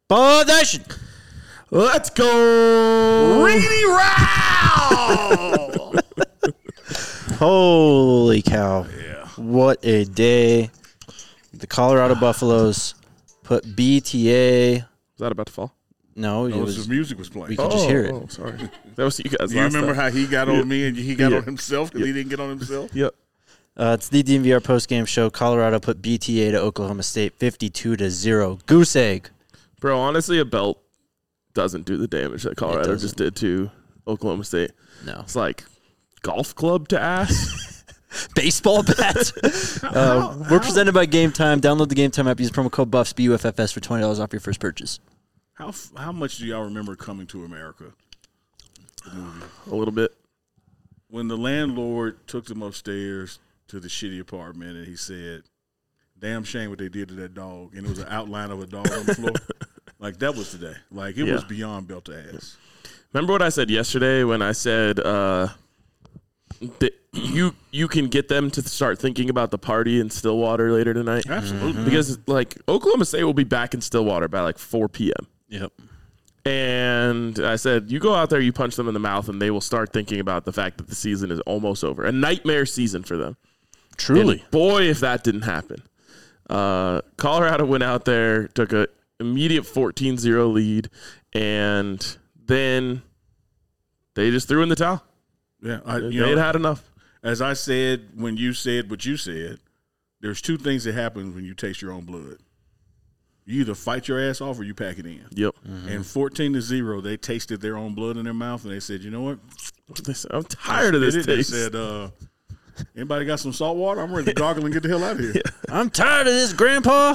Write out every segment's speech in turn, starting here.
Possession. Let's go. Riggedy row. Holy cow. Yeah. What a day. The Colorado Buffaloes put BTA. Is that about to fall? No, it No, was. his music was playing. We could just hear it. Oh, sorry. That was you guys. Do you last remember time. how he got on me and he got Yeah. on himself because he didn't get on himself? Yep. It's the DNVR postgame show. Colorado put BTA to Oklahoma State 52-0. Goose egg. Bro, honestly, a belt doesn't do the damage that Colorado doesn't. just did to Oklahoma State. No. It's like golf club to ass. Baseball bat. We're presented by Game Time. Download the Game Time app. Use promo code BUFFS, BUFFS for $20 off your first purchase. How much do y'all remember Coming to America? The movie. A little bit. When the landlord took them upstairs to the shitty apartment and he said, damn shame what they did to that dog. And it was an outline of a dog on the floor. Like, that was today. Like, it was beyond belt to ass. Remember what I said yesterday when I said that you can get them to start thinking about the party in Stillwater later tonight? Absolutely. Because, like, Oklahoma State will be back in Stillwater by, like, 4 p.m. Yep. And I said, you go out there, you punch them in the mouth, and they will start thinking about the fact that the season is almost over. A nightmare season for them. Truly. And boy, if that didn't happen. Colorado went out there, took an immediate 14-0 lead, and then they just threw in the towel. Yeah. They had enough. As I said when you said what you said, there's two things that happen when you taste your own blood. You either fight your ass off or you pack it in. Yep. And 14-0, they tasted their own blood in their mouth, and they said, you know what? I'm tired of this They taste. said, anybody got some salt water? I'm ready to gargle and get the hell out of here. I'm tired of this, Grandpa.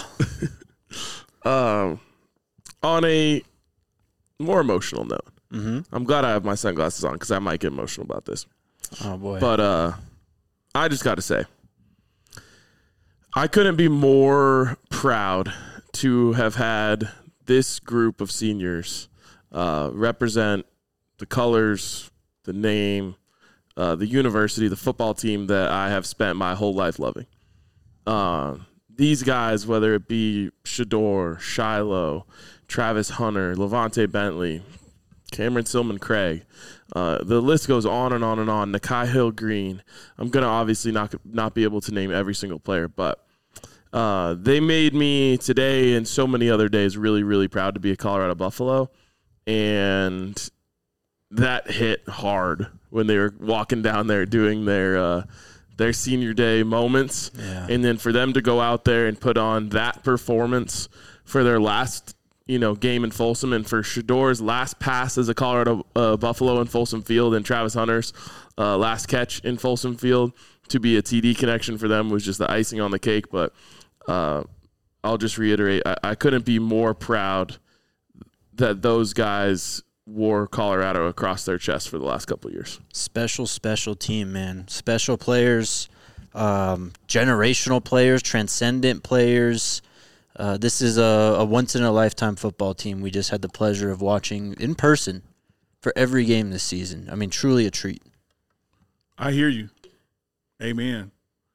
On a more emotional note, I'm glad I have my sunglasses on because I might get emotional about this. Oh, boy. But I just got to say, I couldn't be more proud to have had this group of seniors represent the colors, the name, the university, the football team that I have spent my whole life loving. These guys, whether it be Shedeur, Shiloh, Travis Hunter, Levante Bentley, Cameron Silman Craig, the list goes on and on and on. Nakai Hill Green. I'm going to obviously not be able to name every single player, but they made me today and so many other days really, really proud to be a Colorado Buffalo. And that hit hard when they were walking down there doing their senior day moments. Yeah. And then for them to go out there and put on that performance for their last game in Folsom, and for Shedeur's last pass as a Colorado Buffalo in Folsom Field, and Travis Hunter's last catch in Folsom Field to be a TD connection for them was just the icing on the cake. But I'll just reiterate, I couldn't be more proud that those guys wore Colorado across their chest for the last couple of years. Special team, man. Special players, generational players, transcendent players. This is a once-in-a-lifetime football team we just had the pleasure of watching in person for every game this season. I mean, truly a treat. I hear you. Amen.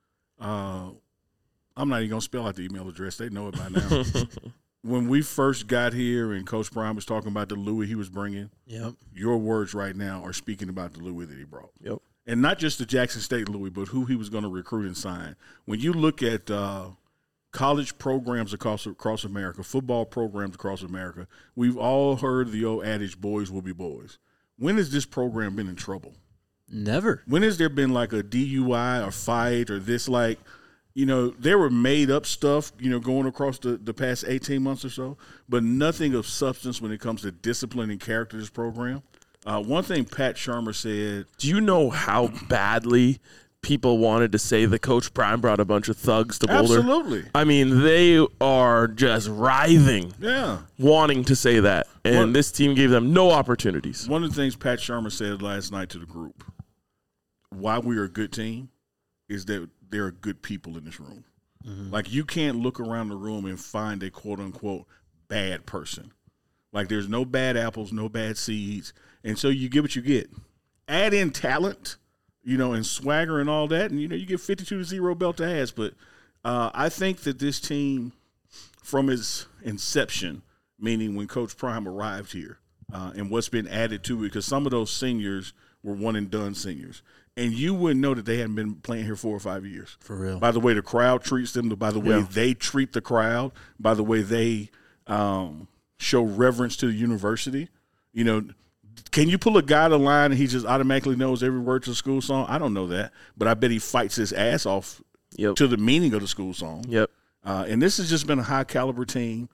I'm not even going to spell out the email address. They know it by now. When we first got here and Coach Prime was talking about the Louis he was bringing, Yep. your words right now are speaking about the Louis that he brought. Yep. And not just the Jackson State Louis, but who he was going to recruit and sign. When you look at college programs across America, football programs across America, we've all heard the old adage, boys will be boys. When has this program been in trouble? Never. When has there been like a DUI or fight or this there were made up stuff, going across the past 18 months or so, but nothing of substance when it comes to discipline and character of this program. One thing Pat Shermer said. Do you know how badly people wanted to say that Coach Prime brought a bunch of thugs to Boulder? Absolutely. I mean, they are just writhing, wanting to say that, and this team gave them no opportunities. One of the things Pat Shermer said last night to the group, why we are a good team, is that there are good people in this room. Mm-hmm. Like, you can't look around the room and find a quote-unquote bad person. Like, there's no bad apples, no bad seeds, and so you get what you get. Add in talent, and swagger and all that, and, you get 52-0 belt to ass. But I think that this team, from its inception, meaning when Coach Prime arrived here and what's been added to it, because some of those seniors were one-and-done seniors. And you wouldn't know that they hadn't been playing here 4 or 5 years. For real. By the way the crowd treats them, by the way they treat the crowd, by the way they show reverence to the university. You know, can you pull a guy to the line and he just automatically knows every word to the school song? I don't know that. But I bet he fights his ass off to the meaning of the school song. Yep. And this has just been a high-caliber team.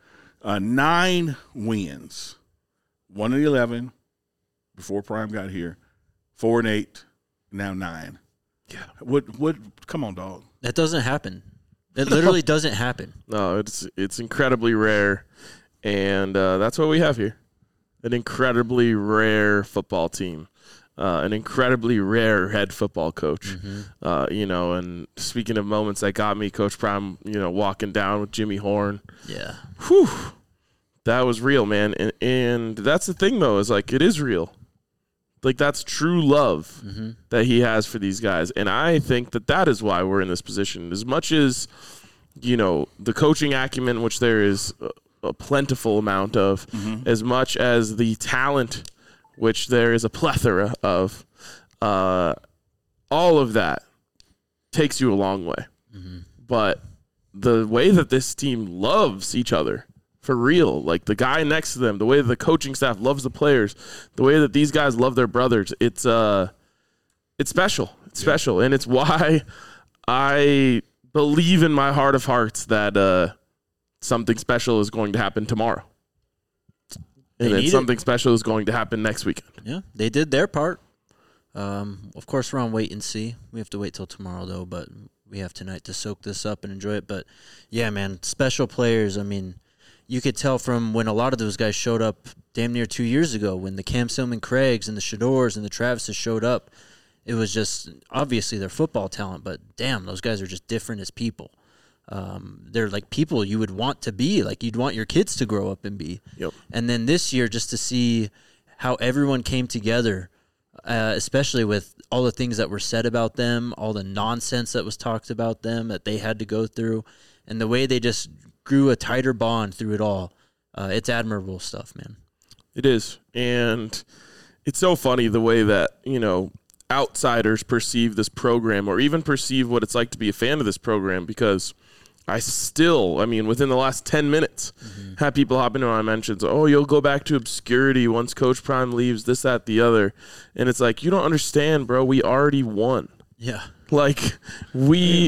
9 wins. 1-11 before Prime got here. 4-8. Now 9. Yeah. What come on, dog. That doesn't happen. It literally doesn't happen. No, it's incredibly rare, and that's what we have here. An incredibly rare football team. An incredibly rare head football coach. You know, and speaking of moments that got me, Coach Prime, you know, walking down with Jimmy Horn. Yeah. Whew. That was real, man. And that's the thing, though, is like it is real. Like, that's true love that he has for these guys. And I think that is why we're in this position. As much as, you know, the coaching acumen, which there is a plentiful amount of, as much as the talent, which there is a plethora of, all of that takes you a long way. But the way that this team loves each other, for real, like the guy next to them, the way that the coaching staff loves the players, the way that these guys love their brothers, it's special. It's special, and it's why I believe in my heart of hearts that something special is going to happen tomorrow, and then something special is going to happen next weekend. Yeah, they did their part. Of course, we're on wait and see. We have to wait till tomorrow, though, but we have tonight to soak this up and enjoy it. But, yeah, man, special players, I mean, you could tell from when a lot of those guys showed up damn near 2 years ago, when the Cam Silman Craigs and the Shadors and the Travises showed up, it was just obviously their football talent, but damn, those guys are just different as people. They're like people you would want to be, like you'd want your kids to grow up and be. Yep. And then this year, just to see how everyone came together, especially with all the things that were said about them, all the nonsense that was talked about them that they had to go through, and the way they just grew a tighter bond through it all. It's admirable stuff, man. It is. And it's so funny the way that, you know, outsiders perceive this program or even perceive what it's like to be a fan of this program, because I mean, within the last 10 minutes, had people hop into my mentions, oh, you'll go back to obscurity once Coach Prime leaves, this, that, the other. And it's like, you don't understand, bro. We already won. Yeah. Like, we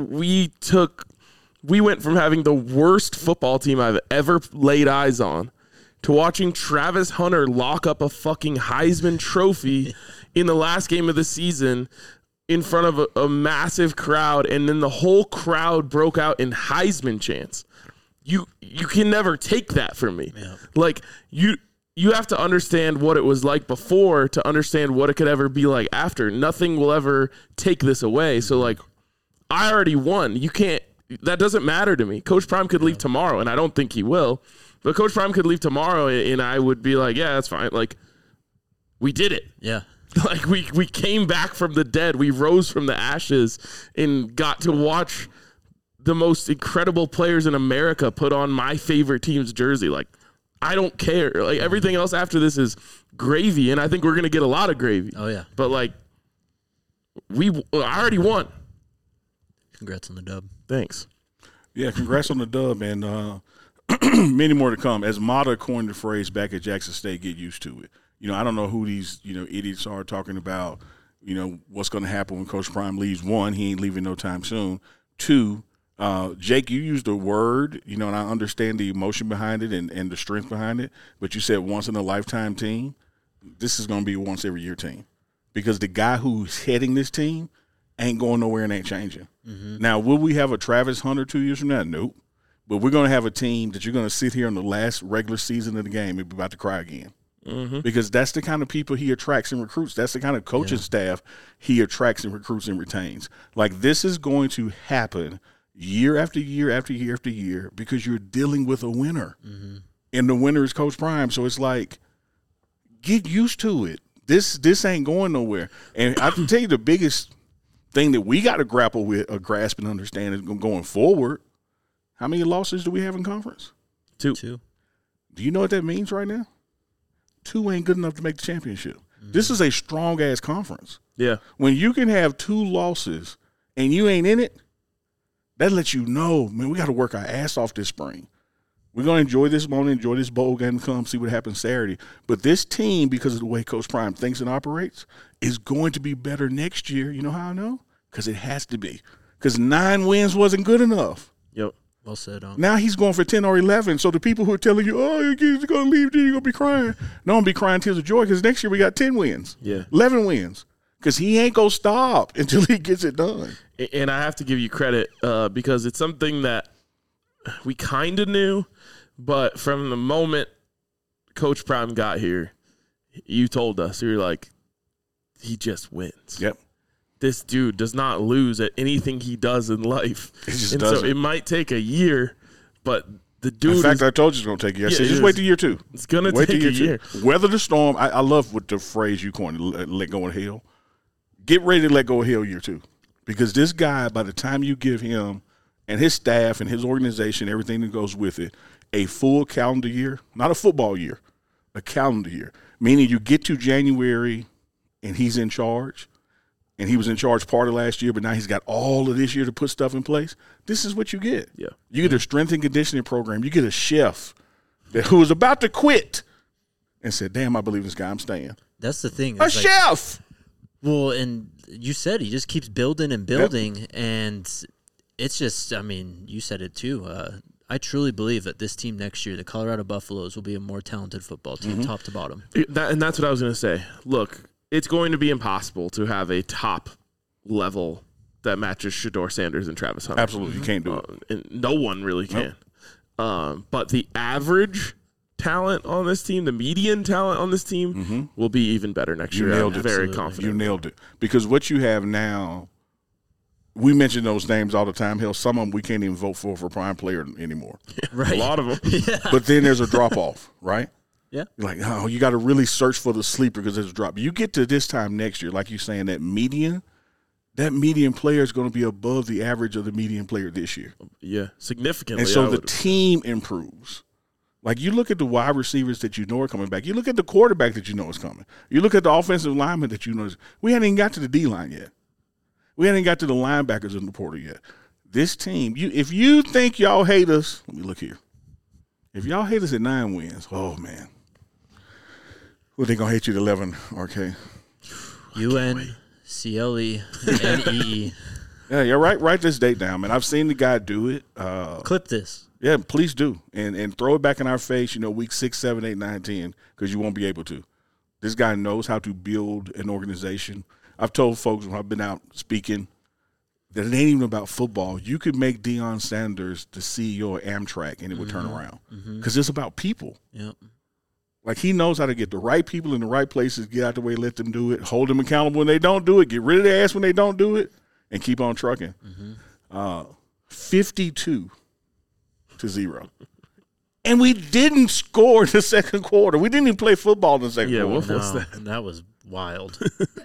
went from having the worst football team I've ever laid eyes on to watching Travis Hunter lock up a fucking Heisman trophy in the last game of the season in front of a massive crowd, and then the whole crowd broke out in Heisman chants. You can never take that from me. Yeah. Like, you have to understand what it was like before to understand what it could ever be like after. Nothing will ever take this away. So, like, I already won. You can't. That doesn't matter to me. Coach Prime could leave tomorrow, and I don't think he will. But Coach Prime could leave tomorrow, and I would be like, yeah, that's fine. Like, we did it. Yeah. Like, we came back from the dead. We rose from the ashes and got to watch the most incredible players in America put on my favorite team's jersey. Like, I don't care. Like, everything else after this is gravy, and I think we're going to get a lot of gravy. Oh, yeah. But, like, I already won. Congrats on the dub. Thanks. Yeah, congrats on the dub, and many more to come. As Mata coined the phrase back at Jackson State, get used to it. You know, I don't know who these, you know, idiots are talking about, you know, what's going to happen when Coach Prime leaves. One, he ain't leaving no time soon. Two, Jake, you used a word, you know, and I understand the emotion behind it and the strength behind it, but you said once in a lifetime team. This is going to be a once every year team, because the guy who's heading this team ain't going nowhere and ain't changing. Now, will we have a Travis Hunter 2 years from now? Nope. But we're going to have a team that you're going to sit here in the last regular season of the game and be about to cry again. Because that's the kind of people he attracts and recruits. That's the kind of coaching staff he attracts and recruits and retains. Like, this is going to happen year after year after year after year because you're dealing with a winner. And the winner is Coach Prime. So it's like, get used to it. This ain't going nowhere. And I can tell you the biggest thing that we got to grapple with or grasp and understand is going forward. How many losses do we have in conference? 2. Do you know what that means right now? 2 ain't good enough to make the championship. This is a strong-ass conference. Yeah. When you can have 2 losses and you ain't in it, that lets you know, man, we got to work our ass off this spring. We're going to enjoy this moment, enjoy this bowl game, come see what happens Saturday. But this team, because of the way Coach Prime thinks and operates, is going to be better next year. You know how I know? Because it has to be. Because 9 wins wasn't good enough. Yep. Well said. Now he's going for 10 or 11. So the people who are telling you, oh, your kids are going to leave, you're going to be crying. No, I'm going to be crying tears of joy because next year we got 10 wins. Yeah. 11 wins. Because he ain't going to stop until he gets it done. And I have to give you credit because it's something that we kind of knew, but from the moment Coach Prime got here, you told us, you were like, he just wins. Yep. This dude does not lose at anything he does in life. It just and doesn't. so it might take a year, but the dude In fact, I told you it's going to take a year. I said, just wait till year 2. It's going to Wait take till a year. 2. Weather the storm. I love what the phrase you coined, let go of hell. Get ready to let go of hell year 2. Because this guy, by the time you give him and his staff and his organization, everything that goes with it, a full calendar year, not a football year, a calendar year, meaning you get to January and he's in charge, and he was in charge part of last year, but now he's got all of this year to put stuff in place. This is what you get. Yeah. You get a strength and conditioning program. You get a chef who was about to quit and said, damn, I believe this guy, I'm staying. That's the thing. A It's like- chef! Well, and you said he just keeps building and building, and it's just, I mean, you said it too. I truly believe that this team next year, the Colorado Buffaloes, will be a more talented football team, top to bottom. And that's what I was going to say. Look, it's going to be impossible to have a top level that matches Shedeur Sanders and Travis Hunter. Absolutely. You can't do it. And no one really can. But the average talent on this team, the median talent on this team, will be even better next You year. nailed I'm it. very Absolutely. confident. You nailed it. Because what you have now, we mention those names all the time. Hell, some of them we can't even vote for prime player anymore. Right. A lot of them. But then there's a drop-off, right? Yeah. You're like, oh, you got to really search for the sleeper because there's a drop. You get to this time next year, like you're saying, that median player is going to be above the average of the median player this year. Yeah, significantly. And so I the would- team improves. Like you look at the wide receivers that you know are coming back. You look at the quarterback that you know is coming. You look at the offensive lineman that you know is. We hadn't even got to the D-line yet. We hadn't got to the linebackers in the portal yet. This team, if you think y'all hate us, let me look here. If y'all hate us at 9 wins, oh, man. Well, they going to hate you at 11, RK. UN, CLE, and EE. Yeah, you're right. Write this date down, man. I've seen the guy do it. Clip this. Yeah, please do. And throw it back in our face, week 6, 7, 8, 9, 10, because you won't be able to. This guy knows how to build an organization. I've told folks when I've been out speaking that it ain't even about football. You could make Deion Sanders the CEO of Amtrak and it would turn around because it's about people. Yep. Like he knows how to get the right people in the right places, get out the way, let them do it, hold them accountable when they don't do it, get rid of their ass when they don't do it, and keep on trucking. 52-0. And we didn't score in the second quarter. We didn't even play football in the second quarter. what was No, that? that was wild.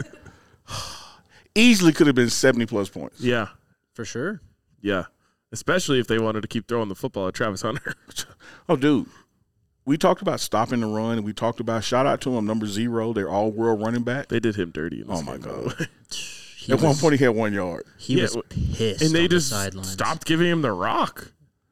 Easily could have been 70-plus points. Yeah, For sure. yeah. Especially if they wanted to keep throwing the football at Travis Hunter. Oh, dude. We talked about stopping the run, and we talked about, shout out to him, number 0, their all-world running back. They did him dirty. In this Oh, my game, by God. the way. At one point, he had 1 yard. He Yeah, was pissed And they on just the sidelines. stopped giving him the rock.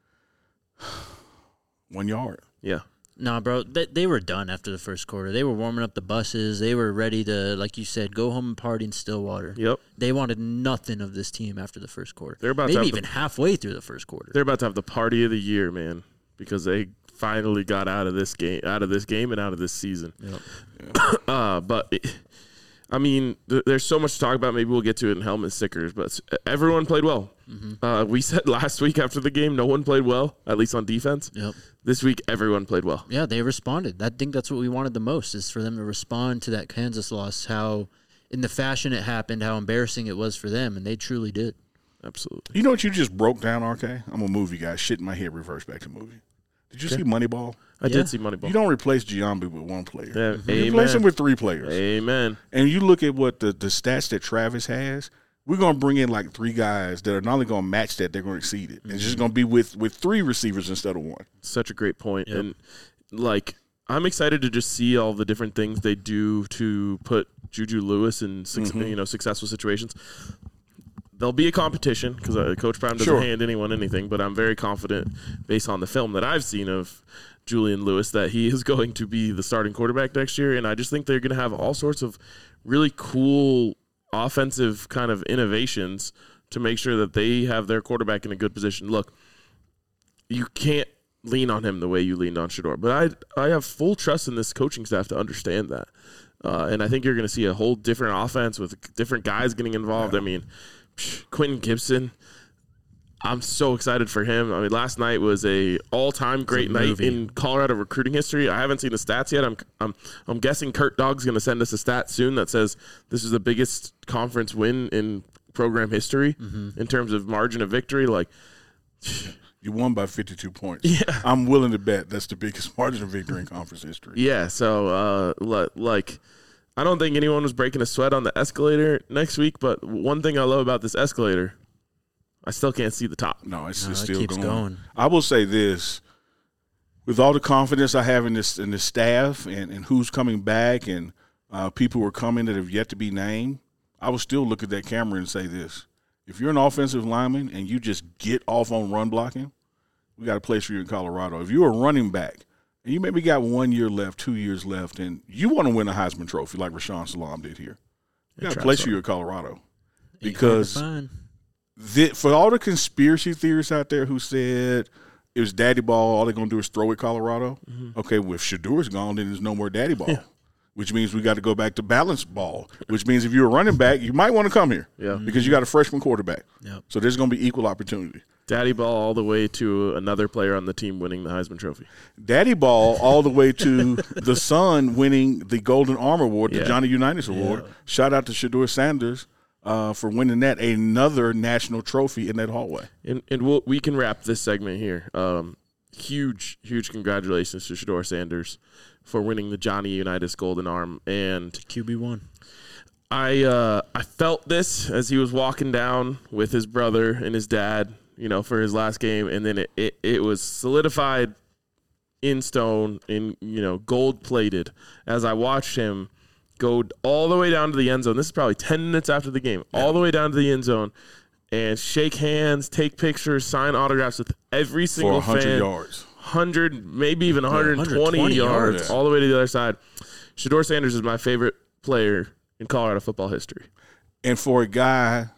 1 yard. Yeah. Nah, bro, they were done after the first quarter. They were warming up the buses. They were ready to, like you said, go home and party in Stillwater. Yep. They wanted nothing of this team after the first quarter. They're about to maybe have even halfway through the first quarter. They're about to have the party of the year, man, because they finally got out of this game and out of this season. Yep. I mean, there's so much to talk about. Maybe we'll get to it in helmet stickers, but everyone played well. We said last week after the game, no one played well, at least on defense. Yep. This week, everyone played well. Yeah, they responded. I think that's what we wanted the most, is for them to respond to that Kansas loss, how in the fashion it happened, how embarrassing it was for them, and they truly did. Absolutely. You know what you just broke down, RK? I'm a movie guy. Shit in my head, reverse back to movie. Did you see Moneyball? I Yeah. did see Moneyball. You don't replace Giambi with 1 player. Yeah, You replace him amen. with 3 players. Amen. And you look at what the stats that Travis has, we're going to bring in like 3 guys that are not only going to match that, they're going to exceed it. It's just going to be with 3 receivers instead of 1. Such a great point. Yep. And like I'm excited to just see all the different things they do to put Juju Lewis in successful situations. There'll be a competition because Coach Prime doesn't hand anyone anything, but I'm very confident based on the film that I've seen of Julian Lewis that he is going to be the starting quarterback next year. And I just think they're going to have all sorts of really cool offensive kind of innovations to make sure that they have their quarterback in a good position. Look, you can't lean on him the way you leaned on Shedeur, but I have full trust in this coaching staff to understand that. And I think you're going to see a whole different offense with different guys getting involved. Yeah. I mean, Quentin Gibson, I'm so excited for him. I mean, last night was a all-time great night in Colorado recruiting history. I haven't seen the stats yet. I'm guessing Kurt Dogg's going to send us a stat soon that says this is the biggest conference win in program history in terms of margin of victory. Like, you won by 52 points. Yeah. I'm willing to bet that's the biggest margin of victory in conference history. Yeah, so, I don't think anyone was breaking a sweat on the escalator next week, but one thing I love about this escalator, I still can't see the top. No, it's still going. I will say this. With all the confidence I have in this staff and who's coming back and people who are coming that have yet to be named, I will still look at that camera and say this. If you're an offensive lineman and you just get off on run blocking, we got a place for you in Colorado. If you're a running back and you maybe got 1 year left, 2 years left, and you want to win a Heisman Trophy like Rashawn Salam did here, we got a place for you in Colorado. Because for all the conspiracy theorists out there who said it was daddy ball, all they're going to do is throw at Colorado, okay, well, if Shedeur's gone, then there's no more daddy ball. Yeah. Which means we got to go back to balanced ball, which means if you're a running back, you might want to come here because you got a freshman quarterback. Yep. So there's going to be equal opportunity. Daddy ball all the way to another player on the team winning the Heisman Trophy. Daddy ball all the way to the son winning the Golden Arm Award, the Johnny Unitas Award. Shout out to Shedeur Sanders for winning that, another national trophy in that hallway. And we can wrap this segment here. Huge congratulations to Shedeur Sanders for winning the Johnny Unitas Golden Arm and QB1. I felt this as he was walking down with his brother and his dad, for his last game, and then it was solidified in stone, in gold plated as I watched him go all the way down to the end zone. This is probably 10 minutes after the game, all the way down to the end zone, and shake hands, take pictures, sign autographs with every single for 100 fan. yards. 100, maybe even 120 yards all the way to the other side. Shedeur Sanders is my favorite player in Colorado football history. And for a guy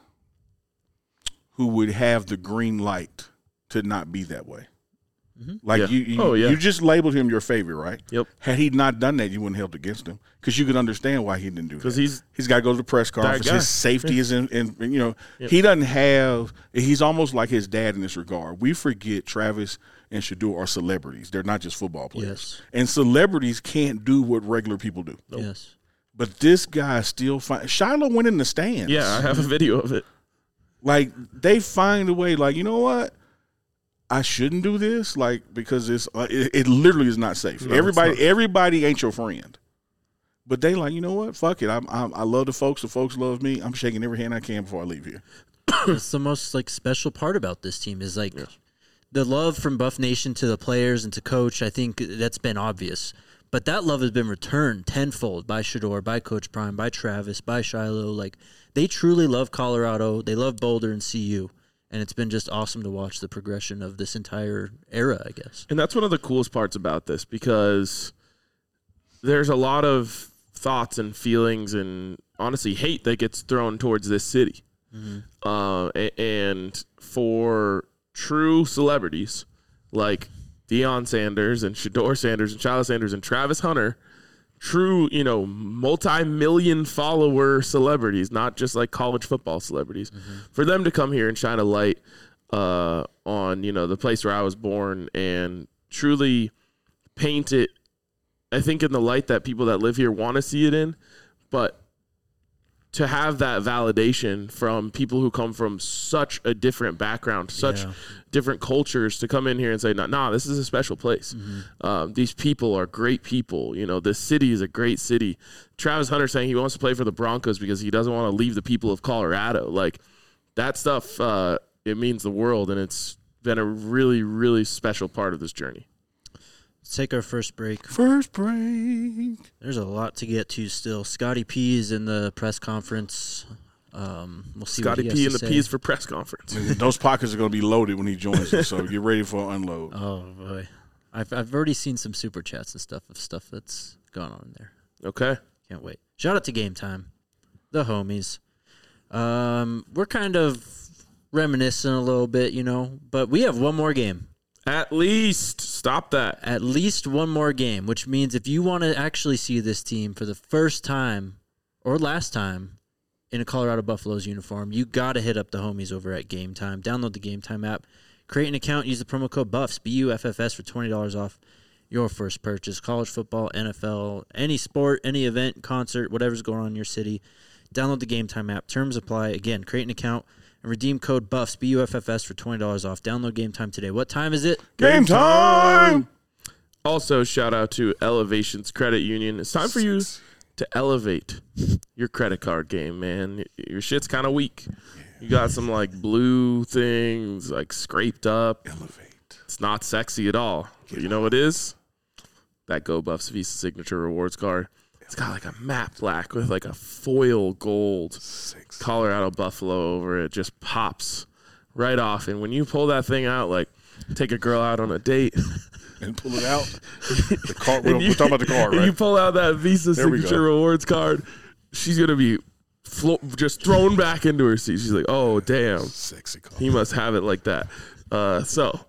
who would have the green light to not be that way. Like you just labeled him your favorite, right? Yep. Had he not done that, you wouldn't have held against him because you could understand why he didn't do that. Because he's got to go to the press conference. His safety is in he doesn't have. He's almost like his dad in this regard. We forget Travis and Shedeur are celebrities. They're not just football players. Yes. And celebrities can't do what regular people do. Nope. Yes. But this guy still Shiloh went in the stands. Yeah, I have a video of it. Like, they find a way, like, you know what? I shouldn't do this, like, because it literally is not safe. No, everybody ain't your friend. But they like, you know what? Fuck it. I love the folks. The folks love me. I'm shaking every hand I can before I leave here. That's the most, special part about this team is, the love from Buff Nation to the players and to coach. I think that's been obvious. But that love has been returned tenfold by Shedeur, by Coach Prime, by Travis, by Shiloh. They truly love Colorado. They love Boulder and CU. And it's been just awesome to watch the progression of this entire era, I guess. And that's one of the coolest parts about this because there's a lot of thoughts and feelings and, honestly, hate that gets thrown towards this city. And for true celebrities like Deion Sanders and Shedeur Sanders and Shiloh Sanders and Travis Hunter, true, multi-million follower celebrities, not just like college football celebrities, for them to come here and shine a light on, the place where I was born and truly paint it, I think, in the light that people that live here want to see it in, but to have that validation from people who come from such a different background, such different cultures, to come in here and say, nah, this is a special place. These people are great people. This city is a great city. Travis Hunter saying he wants to play for the Broncos because he doesn't want to leave the people of Colorado. That stuff, it means the world, and it's been a really, really special part of this journey. Let's take our first break. First break. There's a lot to get to still. Scotty P is in the press conference. We'll see Scotty what he P has and to the say. P's for press conference. Those pockets are going to be loaded when he joins us, so get ready for an unload. Oh, boy. I've already seen some super chats and stuff that's gone on in there. Okay. Can't wait. Shout out to Game Time, the homies. We're kind of reminiscing a little bit, but we have one more game. At least. Stop that. At least one more game, which means if you want to actually see this team for the first time or last time in a Colorado Buffaloes uniform, you got to hit up the homies over at Game Time. Download the Game Time app. Create an account. Use the promo code BUFFS, BUFFS, for $20 off your first purchase. College football, NFL, any sport, any event, concert, whatever's going on in your city. Download the Game Time app. Terms apply. Again, create an account and redeem code BUFFS, BUFFS, for $20 off. Download Game Time today. What time is it? Game time! Also, shout out to Elevations Credit Union. It's time for you to elevate your credit card game, man. Your shit's kind of weak. You got some blue things scraped up. Elevate. It's not sexy at all. But you know what it is? That Go Buffs Visa Signature Rewards card. It's got a matte black with a foil gold Colorado Buffalo over it. Just pops right off. And when you pull that thing out, take a girl out on a date. And pull it out. The card. We're talking about the card, right? And you pull out that Visa Signature Rewards card. She's going to be just thrown back into her seat. She's like, oh, damn. Sexy card. He must have it like that. So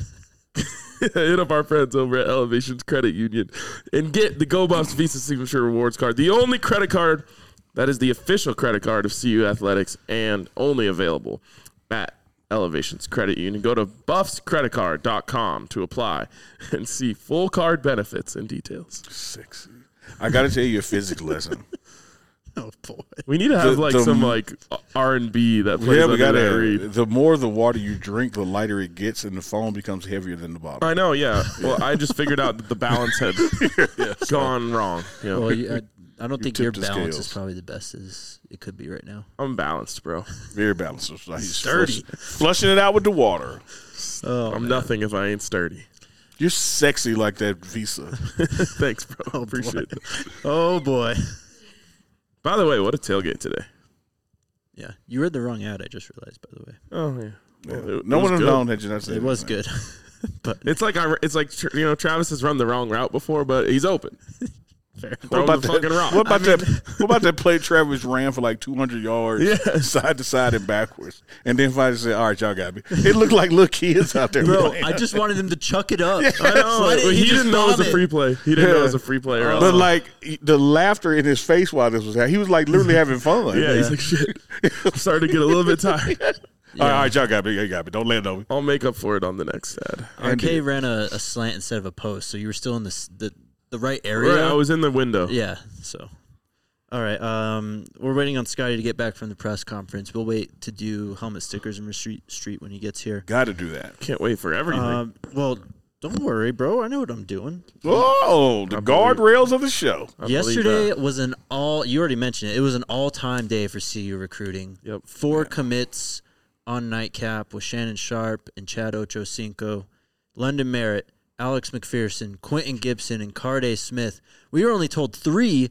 hit up our friends over at Elevations Credit Union and get the Go Buffs Visa Signature Rewards card. The only credit card that is the official credit card of CU Athletics and only available at Elevations Credit Union. Go to buffscreditcard.com to apply and see full card benefits and details. Sexy. I got to tell you a physics lesson. Oh, boy. We need to have some R&B that plays Yeah, under we got that to. read. The more the water you drink, the lighter it gets, and the foam becomes heavier than the bottle. I know, yeah. Well, I just figured out that the balance had gone wrong. Well, I don't think your tipped the balance scales. is probably the best as it could be right now. I'm balanced, bro. Very balanced. So he's Sturdy. Flushing it out with the water. I'm nothing if I ain't sturdy. You're sexy like that Visa. Thanks, bro. Appreciate it. Oh, boy. By the way, what a tailgate today. Yeah. You read the wrong ad, I just realized, by the way. Oh, yeah. Well, No was one has good. known that you not It was good. But It's like Travis has run the wrong route before, but he's open. fair. Throw the fucking rock. What about that play Travis ran for 200 yards side to side and backwards, and then finally said, "All right, y'all got me." It looked like little kids out there. Bro, playing. I just wanted him to chuck it up. I know. He didn't know it was a free play. He didn't know it was a free play. Or else. But the laughter in his face while this was happening, he was literally having fun. Yeah, he's like, shit. I'm starting to get a little bit tired. All right, y'all got me. You got me. Don't let me. I'll make up for it on the next ad. RK ran a slant instead of a post, so you were still in the right area. Right, I was in the window. Yeah, so. All right, we're waiting on Scotty to get back from the press conference. We'll wait to do helmet stickers in Street when he gets here. Got to do that. Can't wait for everything. Well, don't worry, bro. I know what I'm doing. Oh, the guardrails of the show. Yesterday was you already mentioned it. It was an all-time day for CU recruiting. Yep. 4 commits on nightcap with Shannon Sharp and Chad Ochocinco, London Merritt, Alex McPherson, Quentin Gibson, and Carday Smith. We were only told 3.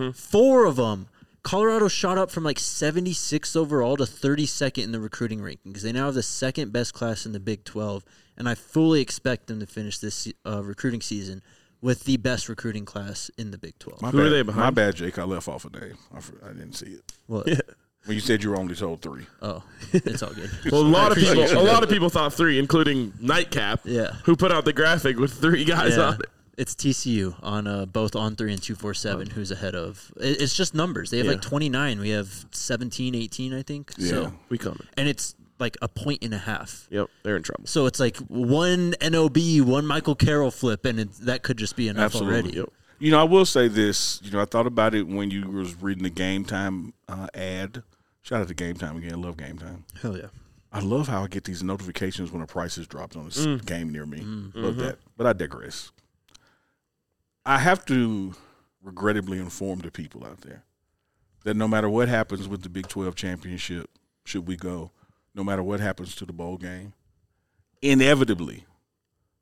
4 of them. Colorado shot up from 76th overall to 32nd in the recruiting rankings. They now have the second best class in the Big 12, and I fully expect them to finish this recruiting season with the best recruiting class in the Big 12. Who are they behind? My bad, Jake. I left off a name. I didn't see it. What? When you said you were only told 3. Oh, it's all good. Well, a lot of people thought 3, including Nightcap, who put out the graphic with 3 guys on it. It's TCU on both On3 and 247 who's ahead of. It's just numbers. They have 29. We have 17, 18, I think. Yeah. So, We coming. and it's a point and a half. Yep, they're in trouble. So it's one NOB, one Michael Carroll flip, and that could just be enough already. Yep. I will say this. I thought about it when you was reading the Game Time ad. Shout out to Game Time again. I love Game Time. Hell yeah. I love how I get these notifications when a price is dropped on a game near me. Love that. But I digress. I have to regrettably inform the people out there that no matter what happens with the Big 12 championship, should we go, no matter what happens to the bowl game, inevitably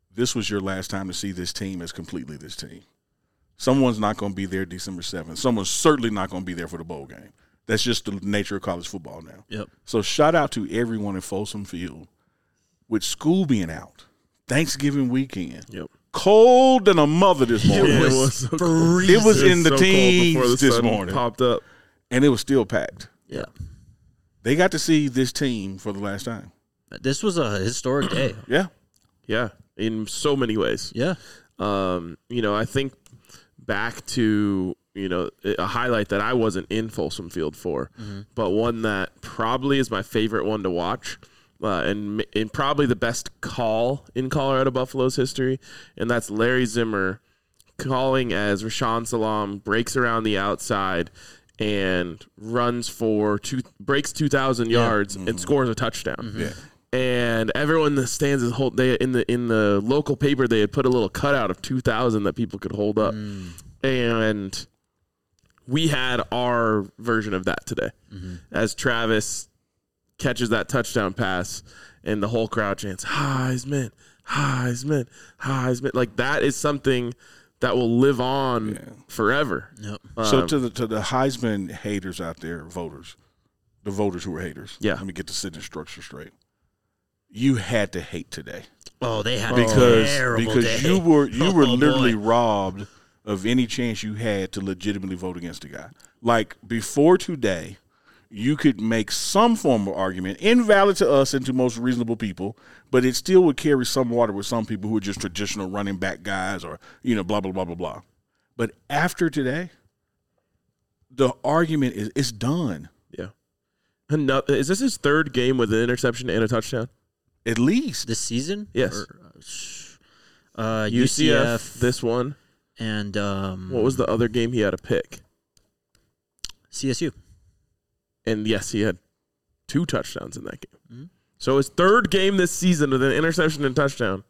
this was your last time to see this team as completely this team. Someone's not going to be there December 7th. Someone's certainly not going to be there for the bowl game. That's just the nature of college football now. Yep. So shout out to everyone in Folsom Field. With school being out, Thanksgiving weekend, cold than a mother this morning. It was freezing. It was in the so teens cold before the this sun morning. popped up. And it was still packed. Yeah. They got to see this team for the last time. This was a historic day. Yeah. Yeah, in so many ways. Yeah. I think back to, a highlight that I wasn't in Folsom Field for, but one that probably is my favorite one to watch, and probably the best call in Colorado Buffalo's history, and that's Larry Zimmer calling as Rashaan Salam breaks around the outside and runs breaks 2,000 yards and scores a touchdown. Yeah. And everyone in the stands in the local paper, they had put a little cutout of 2,000 that people could hold up, and we had our version of that today as Travis catches that touchdown pass, and the whole crowd chants Heisman, Heisman, Heisman. Like, that is something that will live on forever. Yep. So to the Heisman haters out there, the voters who were haters. Yeah. Let me get the sentence structure straight. You had to hate today. Oh, they had because a terrible day. you were literally boy. robbed of any chance you had to legitimately vote against the guy. Like, before today, you could make some form of argument, invalid to us and to most reasonable people, but it still would carry some water with some people who are just traditional running back guys or, blah, blah, blah, blah, blah. But after today, the argument it's done. Yeah. Is this his third game with an interception and a touchdown? At least. This season? Yes. UCF. This one. And what was the other game he had a pick? CSU. And yes, he had 2 touchdowns in that game. So his third game this season with an interception and touchdown.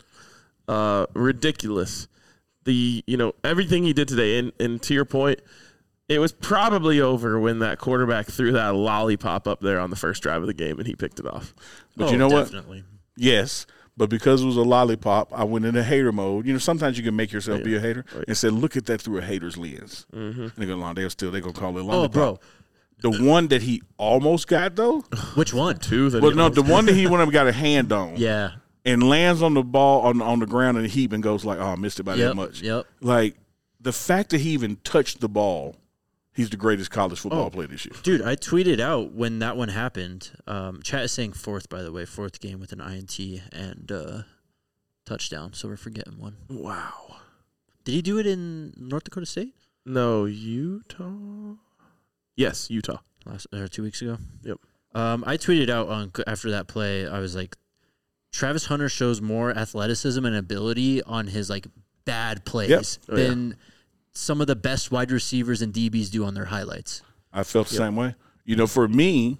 Ridiculous. Everything he did today, and to your point, it was probably over when that quarterback threw that lollipop up there on the first drive of the game and he picked it off. But you know definitely. what? Yes. But because it was a lollipop, I went into hater mode. Sometimes you can make yourself be a hater and say, look at that through a hater's lens. And they go, they're going to call it lollipop. Oh, bro. The one that he almost got, though? Which one? 2 that Well, no, the one that he went up and got a hand on. Yeah. And lands on the ball on the ground in a heap and goes like, I missed it by that much. Yep. Like, the fact that he even touched the ball, he's the greatest college football player this year. Dude, I tweeted out when that one happened. Chat is saying 4th, by the way. 4th game with an INT and touchdown. So we're forgetting one. Wow. Did he do it in North Dakota State? No, Utah? Yes, Utah. 2 weeks ago? Yep. I tweeted out after that play, I was like, Travis Hunter shows more athleticism and ability on his bad plays than some of the best wide receivers and DBs do on their highlights. I felt the same way. For me,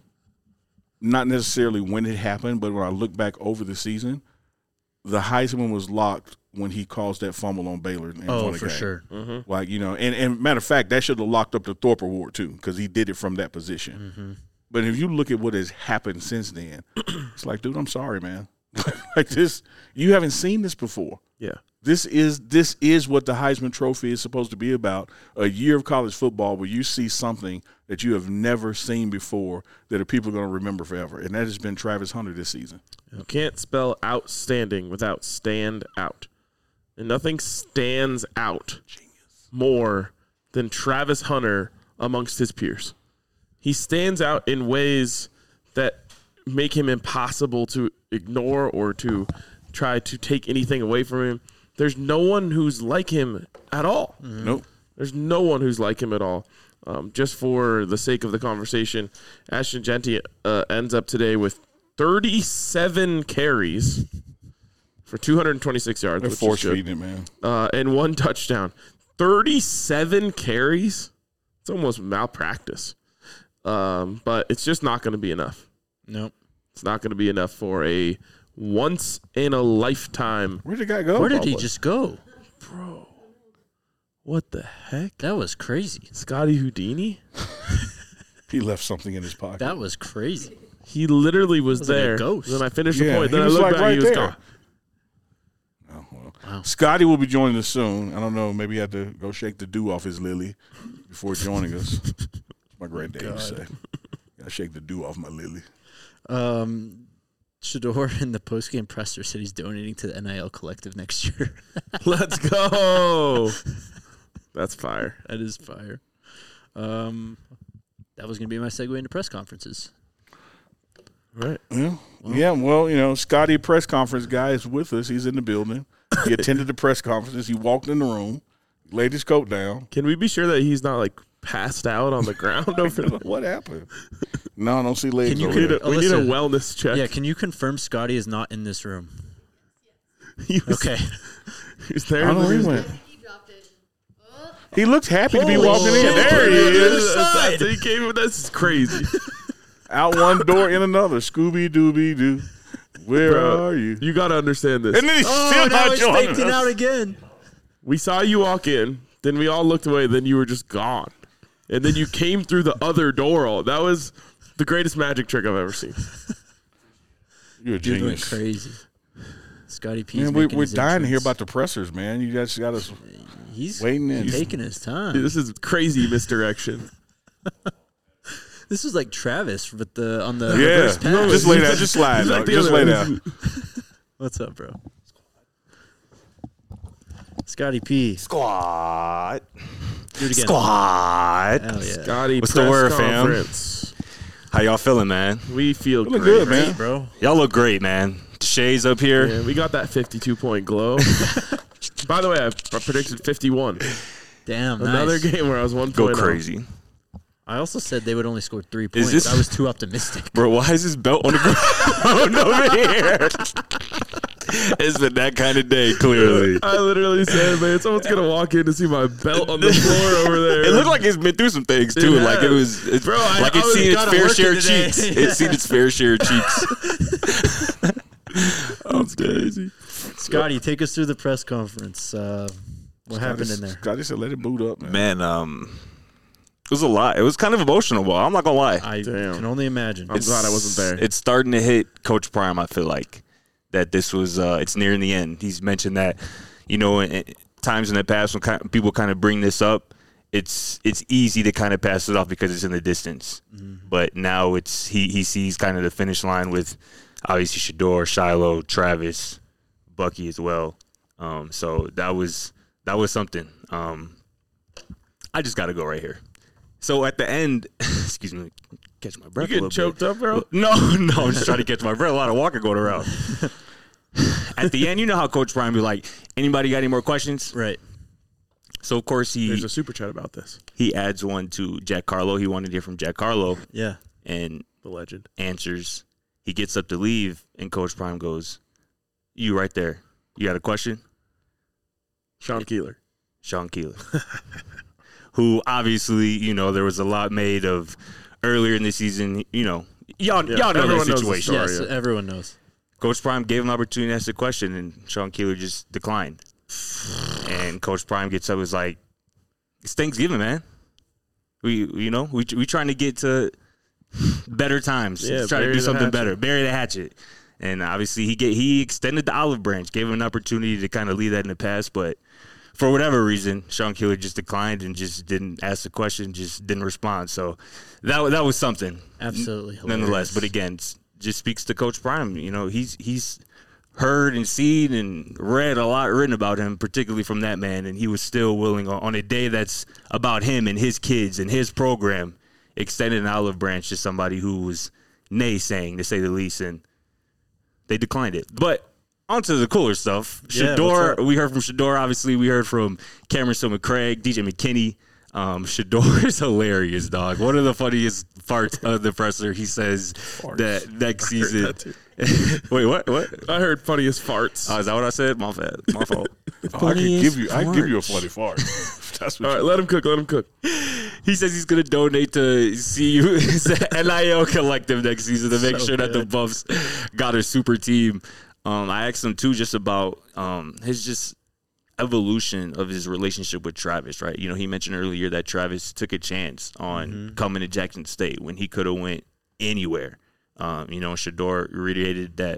not necessarily when it happened, but when I look back over the season, the Heisman was locked when he caused that fumble on Baylor. And won for game. sure. And matter of fact, that should have locked up the Thorpe Award too, because he did it from that position. But if you look at what has happened since then, it's like, dude, I'm sorry, man. Like this, you haven't seen this before. Yeah. This is what the Heisman Trophy is supposed to be about. A year of college football where you see something that you have never seen before that people are going to remember forever. And that has been Travis Hunter this season. You can't spell outstanding without stand out. And nothing stands out more than Travis Hunter amongst his peers. He stands out in ways that make him impossible to ignore or to try to take anything away from him. There's no one who's like him at all. Nope. There's no one who's like him at all. Just for the sake of the conversation, Ashton Jeanty ends up today with 37 carries for 226 yards. They're force feeding it, man. And 1 touchdown. 37 carries? It's almost malpractice. But it's just not going to be enough. Nope. It's not going to be enough for a once-in-a-lifetime. Where'd the guy go? Where did he just go? Bro, what the heck? That was crazy. Scotty Houdini? He left something in his pocket. That was crazy. He literally was Like a there. ghost. Then I finished the Yeah, point. he Then I was looked like back. right He was there. gone. Oh, well. Wow. Scotty will be joining us soon. I don't know. Maybe he had to go shake the dew off his lily before joining us. My granddad used to say. Gotta shake the dew off my lily. Shador in the postgame presser said he's donating to the NIL collective next year. Let's go. That's fire. That is fire. That was going to be my segue into press conferences. Right. Yeah, well, Scotty, press conference guy, is with us. He's in the building. He attended the press conferences. He walked in the room, laid his coat down. Can we be sure that he's not, like, passed out on the ground over there? What happened? No, I don't see legs Can you over there. We need a wellness check. Yeah, can you confirm Scotty is not in this room? Okay. He's there. I don't know where he went. He dropped it. Oh. He looks happy to be Holy walking in. shit. There he is. This is crazy. Out one door, in another. Scooby-Dooby-Doo. Where Bro, are you? You got to understand this. And then he's still now not he's joining faking out us. again. We saw you walk in, then we all looked away, then you were just gone. And then you came through the other door. That was the greatest magic trick I've ever seen. You're a Dude went genius. crazy. Scotty P's Man, making we're his dying to hear entrance. about the pressers, man. You guys got us He's waiting in. taking his time. This is crazy misdirection. This is like Travis with on the Yeah, reverse pass. just lay down. Just slide. He's like dog. the Just other- lay down. What's up, bro? Scotty P. Squad. Do it again. Squad. Hell yeah. Scotty, What's the press word, fam? conference. How y'all feeling, man? We feel Feeling great. good, man. Bro. Y'all look great, man. Shades up here. Yeah, we got that 52-point glow. By the way, I predicted 51. Damn, Another nice. game where I was 1 Go point up. crazy. I also said they would only score 3 Is points. this- I was too optimistic. Bro, why is this belt on the ground over here? It's been that kind of day, clearly. I literally said, man, someone's going to walk in to see my belt on the floor over there. It looked like it's been through some things, too. It Like, it has. was, it's, Bro, like I it's was seen its gotta fair work share it of today. cheeks. It's seen its fair share of cheeks. That's crazy. Scotty, take us through the press conference. What happened in there? Scotty said, "Let it boot up, man." Man, it was a lot. It was kind of emotional, but I'm not going to lie. I Damn. can only imagine. I'm glad I wasn't there. It's starting to hit Coach Prime, I feel like, that this was, it's nearing the end. He's mentioned that, in times in the past when people kind of bring this up, it's easy to kind of pass it off because it's in the distance. Mm-hmm. But now he sees kind of the finish line with obviously Shador, Shiloh, Travis, Bucky as well. So that was something. I just got to go right here. So at the end, excuse me, catch my breath. You getting a little bit. choked up, bro? No, I'm just trying to catch my breath. A lot of walking going around. At the end, you know how Coach Brian be like, anybody got any more questions? Right. So, of course, There's a super chat about this. he adds one to Jack Carlo. He wanted to hear from Jack Carlo Yeah. and The legend. answers. He gets up to leave, and Coach Prime goes, you right there. You got a question? Sean Keeler. Sean Keeler. Who, obviously, there was a lot made of earlier in the season. Y'all know everyone the knows the situation. story. Yes, everyone knows. Coach Prime gave him an opportunity to ask a question, and Sean Keeler just declined. And Coach Prime gets up and was like, it's Thanksgiving, man. We trying to get to better times. Yeah, Let's try to bury do the something hatchet. better. Bury the hatchet. And obviously he extended the olive branch, gave him an opportunity to kind of leave that in the past, but for whatever reason, Sean Keeler just declined and just didn't ask the question, just didn't respond. So that was something. Absolutely. Nonetheless, hilarious. but again, just speaks to Coach Prime. He's heard and seen and read a lot written about him, particularly from that man, and he was still willing on a day that's about him and his kids and his program, extended an olive branch to somebody who was naysaying, to say the least, and they declined it. But on to the cooler stuff. Yeah, Shador, what's up? we heard from Shador, obviously. We heard from Cameron Silman-Craig, DJ McKinney. Shador is hilarious, dog. One of the funniest parts of the presser, he says that next season. that Wait, what? I heard funniest farts. Is that what I said? My fault. I can give you a funny fart. That's what All right, let him cook. He says he's going to donate to CU NIL Collective next season to make So sure that the good. Buffs got a super team. I asked him too just about his just evolution of his relationship with Travis, right? He mentioned earlier that Travis took a chance on coming to Jackson State when he could have went anywhere. Shador reiterated that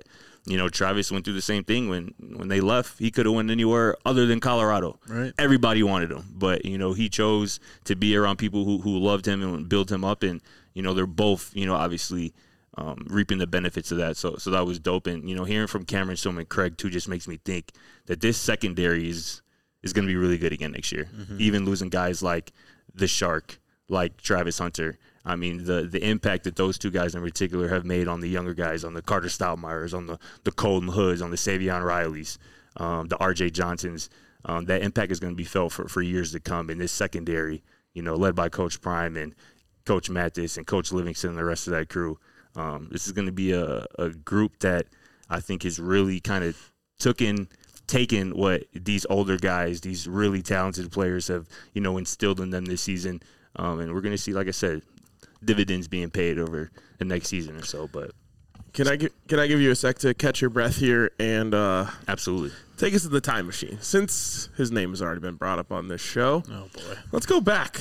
Travis went through the same thing when they left. He could have went anywhere other than Colorado. Right. Everybody wanted him, but he chose to be around people who loved him and built him up, and they're both obviously reaping the benefits of that. So that was dope. And hearing from Cameron Stillman, Craig too, just makes me think that this secondary is going to be really good again next year. Mm-hmm. Even losing guys like the Shark, like Travis Hunter. I mean, the impact that those two guys in particular have made on the younger guys, on the Carter Stoudemires, on the Colton Hoods, on the Savion Rileys, the R.J. Johnsons, that impact is going to be felt for years to come. In this secondary, led by Coach Prime and Coach Mathis and Coach Livingston and the rest of that crew, this is going to be a group that I think is really kind of taken what these older guys, these really talented players have, instilled in them this season. And we're going to see, like I said, dividends being paid over the next season or so. But can I give you a sec to catch your breath here and absolutely take us to the time machine? Since his name has already been brought up on this show, Oh boy. let's go back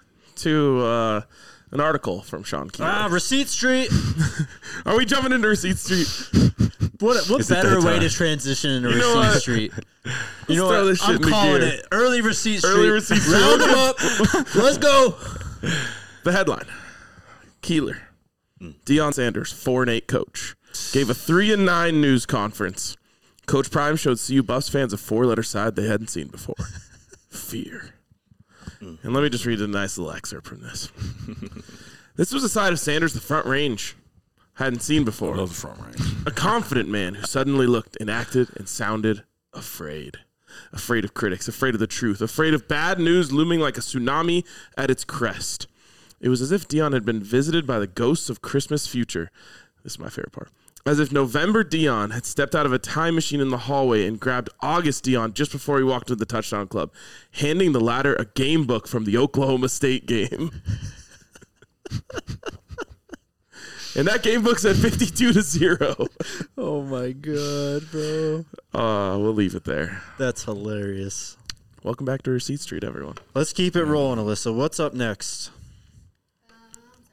to an article from Sean Keeler. Receipt Street. Are we jumping into Receipt Street? What Is it better that way time? to transition into You know Receipt what? Street? Let's throw this shit I'm into calling gear. it early Receipt Street. Early Receipt Street. Round them up. Let's go. The headline: Keeler, Deion Sanders, 4-8 coach, gave a 3-9 news conference. Coach Prime showed CU Buffs fans a 4-letter side they hadn't seen before: fear. And let me just read a nice little excerpt from this. This was a side of Sanders the Front Range hadn't seen before. Love the front range. A confident man who suddenly looked and acted and sounded afraid. Afraid of critics, afraid of the truth, afraid of bad news looming like a tsunami at its crest. It was as if Deion had been visited by the ghosts of Christmas future. This is my favorite part. As if November Deion had stepped out of a time machine in the hallway and grabbed August Deion just before he walked into the touchdown club, handing the latter a game book from the Oklahoma State game. And that game book said 52-0. Oh my god, bro. We'll leave it there. That's hilarious. Welcome back to Receipt Street, everyone. Let's keep it rolling, Alyssa. What's up next? I'm sorry.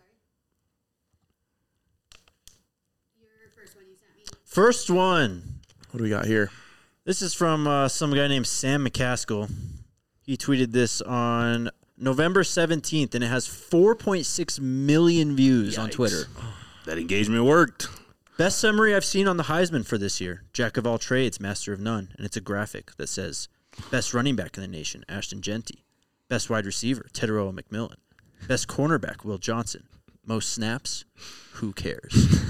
Your first one you sent me. First one. What do we got here? This is from some guy named Sam McCaskill. He tweeted this on November 17th, and it has 4.6 million views on Yikes. Twitter. that engagement worked. Best summary I've seen on the Heisman for this year. Jack of all trades, master of none. And it's a graphic that says, best running back in the nation, Ashton Genty. Best wide receiver, Teteroa McMillan. Best cornerback, Will Johnson. Most snaps, who cares?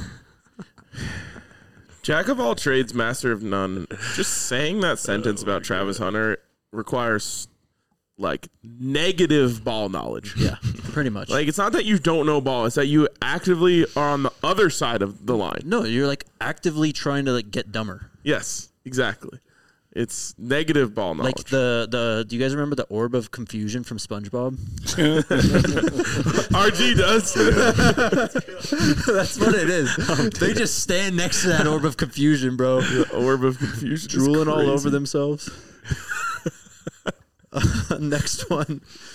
Jack of all trades, master of none. Just saying that sentence about Travis Hunter requires like negative ball knowledge. Yeah, pretty much. Like, it's not that you don't know ball, it's that you actively are on the other side of the line. No, you're like actively trying to like get dumber. Yes, exactly. It's negative ball knowledge. Like the do you guys remember the orb of confusion from SpongeBob? RG does. That's what it is. They just stand next to that orb of confusion, bro. The orb of confusion. is Drooling all crazy. over themselves. Next one.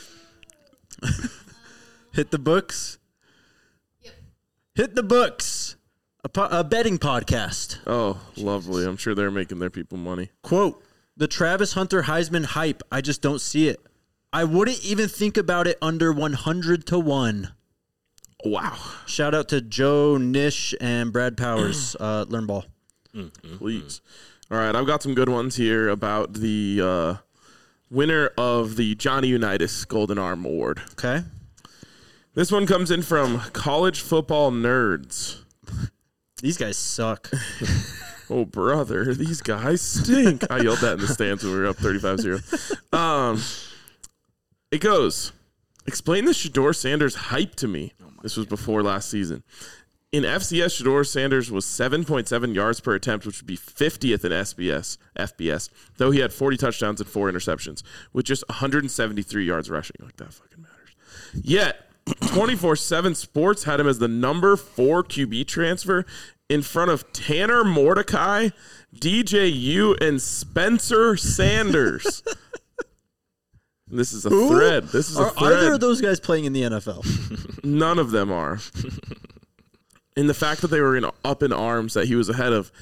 Hit the books. Yep. Hit the books. A betting podcast. Oh, lovely. I'm sure they're making their people money. Quote, the Travis Hunter Heisman hype, I just don't see it. I wouldn't even think about it under 100-1. Wow. Shout out to Joe Nish and Brad Powers, Learn Ball. Please. All right, I've got some good ones here about the winner of the Johnny Unitas Golden Arm Award. Okay. This one comes in from College Football Nerds. These guys suck. Oh, brother, these guys stink. I yelled that in the stands when we were up 35-0. It goes, explain the Shedeur Sanders hype to me. This was before last season. In FCS, Shedeur Sanders was 7.7 yards per attempt, which would be 50th in FBS, though he had 40 touchdowns and 4 interceptions, with just 173 yards rushing. Like, that fucking matters. Yet, 24/7 Sports had him as the number 4 QB transfer in front of Tanner Mordecai, DJU, and Spencer Sanders. This is a thread. This is a Are thread. either of those guys playing in the NFL? None of them are. In the fact that they were up in arms that he was ahead of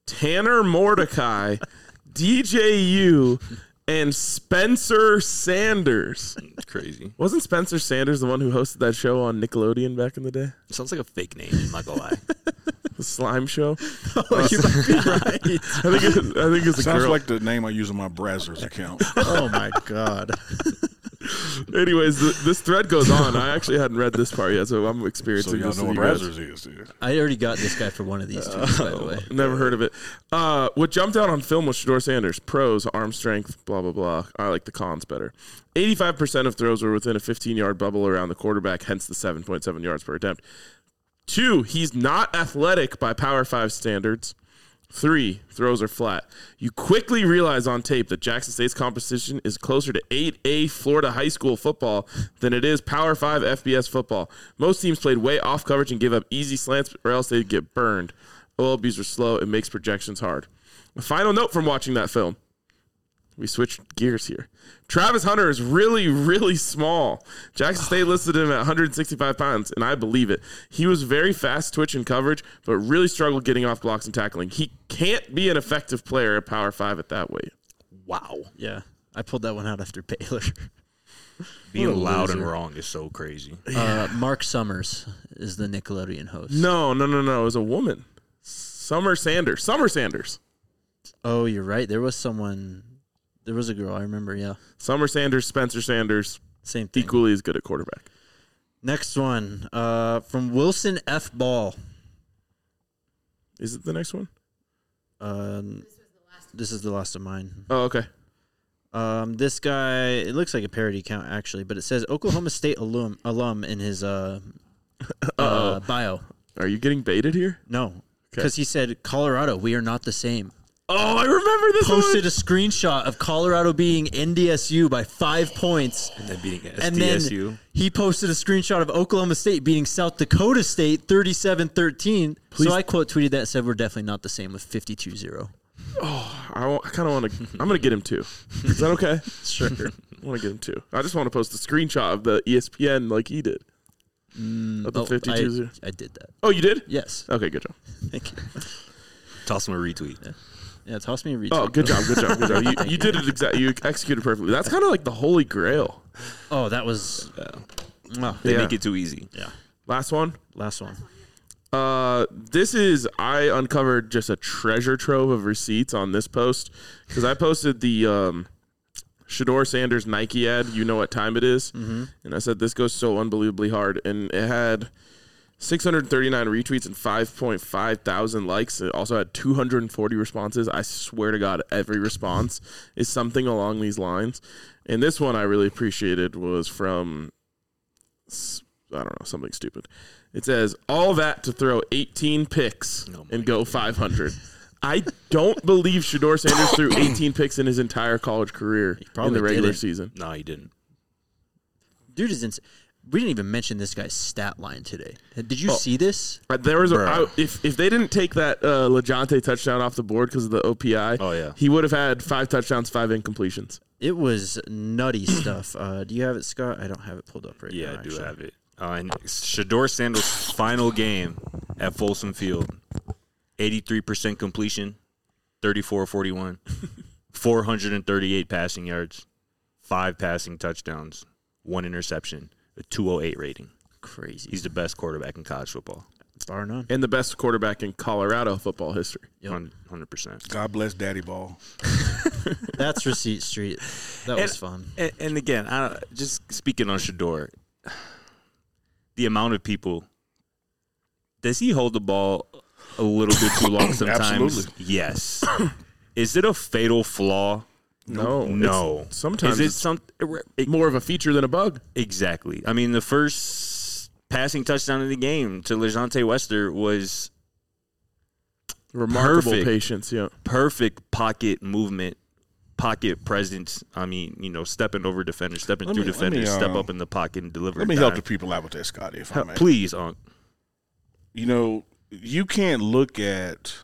Tanner Mordecai, DJU, and Spencer Sanders. It's crazy. Wasn't Spencer Sanders the one who hosted that show on Nickelodeon back in the day? Sounds like a fake name. I'm not gonna lie. The slime show? Oh, you might be right. I think it's a Sounds girl. like the name I use on my Brazzers account. Oh my god. Anyways, this thread goes on. I actually hadn't read this part yet, so I'm So experiencing y'all this. know with what you guys. Brazzers is, dude. I already got this guy for one of these tweets, by the way. Never heard of it. What jumped out on film was Shedeur Sanders. Pros, arm strength, blah, blah, blah. I like the cons better. 85% of throws were within a 15-yard bubble around the quarterback, hence the 7.7 yards per attempt. 2, he's not athletic by Power 5 standards. 3, throws are flat. You quickly realize on tape that Jackson State's competition is closer to 8A Florida high school football than it is Power 5 FBS football. Most teams played way off coverage and gave up easy slants or else they'd get burned. OLBs are slow. It makes projections hard. A final note from watching that film. We switched gears here. Travis Hunter is really, really small. Jackson State listed him at 165 pounds, and I believe it. He was very fast twitch in coverage, but really struggled getting off blocks and tackling. He can't be an effective player at Power 5 at that weight. Wow. Yeah. I pulled that one out after Baylor. Being What a loud and loser. wrong is so crazy. Mark Summers is the Nickelodeon host. No. It was a woman. Summer Sanders. Oh, you're right. There was a girl, I remember, yeah. Summer Sanders, Spencer Sanders, Same thing. equally as good at quarterback. Next one, from Wilson F. Ball. Is it the next one? This is the last of mine. Oh, okay. This guy, it looks like a parody account actually, but it says Oklahoma State alum in his bio. Are you getting baited here? No, because he said Colorado, we are not the same. Oh, I remember this Posted one. a screenshot of Colorado being NDSU by 5 points. And then beating And then SDSU. he posted a screenshot of Oklahoma State beating South Dakota State 37-13. Please. So I quote tweeted that and said we're definitely not the same with 52-0. I kind of want to. I'm going to get him 2. Is that okay? Sure. I want to get him 2. I just want to post a screenshot of the ESPN like he did. Of the 52. I did that. Oh, you did? Yes. Okay, good job. Thank you. Toss him a retweet. Yeah, toss me a retweet. Oh, good job. You did it exactly. You executed perfectly. That's kind of like the holy grail. Oh, that was. Wow. They Yeah. make it too easy. Yeah. Last one. Last one. This is I uncovered just a treasure trove of receipts on this post because I posted the Shedeur Sanders Nike ad. You know what time it is, and I said this goes so unbelievably hard, and it had 639 retweets and 5.5 thousand likes. It also had 240 responses. I swear to God, every response is something along these lines. And this one I really appreciated was from, I don't know, something stupid. It says, all that to throw 18 picks and go 500. I don't believe Shedeur Sanders threw 18 picks in his entire college career in probably the regular didn't. season. No, he didn't. Dude is insane. We didn't even mention this guy's stat line today. Did you see this? There was Bro. if they didn't take that LeJonte touchdown off the board because of the OPI, Oh, yeah. he would have had 5 touchdowns, 5 incompletions. It was nutty stuff. Do you have it, Scott? I don't have it pulled up right now. Yeah, I do actually. have it. And Shedeur Sanders' final game at Folsom Field, 83% completion, 34-41, 438 passing yards, 5 passing touchdowns, 1 interception, a 208 rating. Crazy. He's the best quarterback in college football. Bar none. And the best quarterback in Colorado football history. Yep. 100%. God bless Daddy Ball. That's Receipt Street. That was fun. And again, just speaking on Shedeur, the amount of people, does he hold the ball a little bit too long sometimes? Absolutely. Yes. Is it a fatal flaw? No. No. It's- sometimes Is it it's some more of a feature than a bug. exactly? I mean, the first passing touchdown of the game to LeJonte Wester was Remarkable Perfect. patience, yeah. perfect pocket movement, pocket presence. I mean, stepping over defenders, stepping Let through me- defenders, let me, step up in the pocket and deliver. Let me a help dime. the people out with that, Scotty, if I may. Please, Unc. You know, you can't look at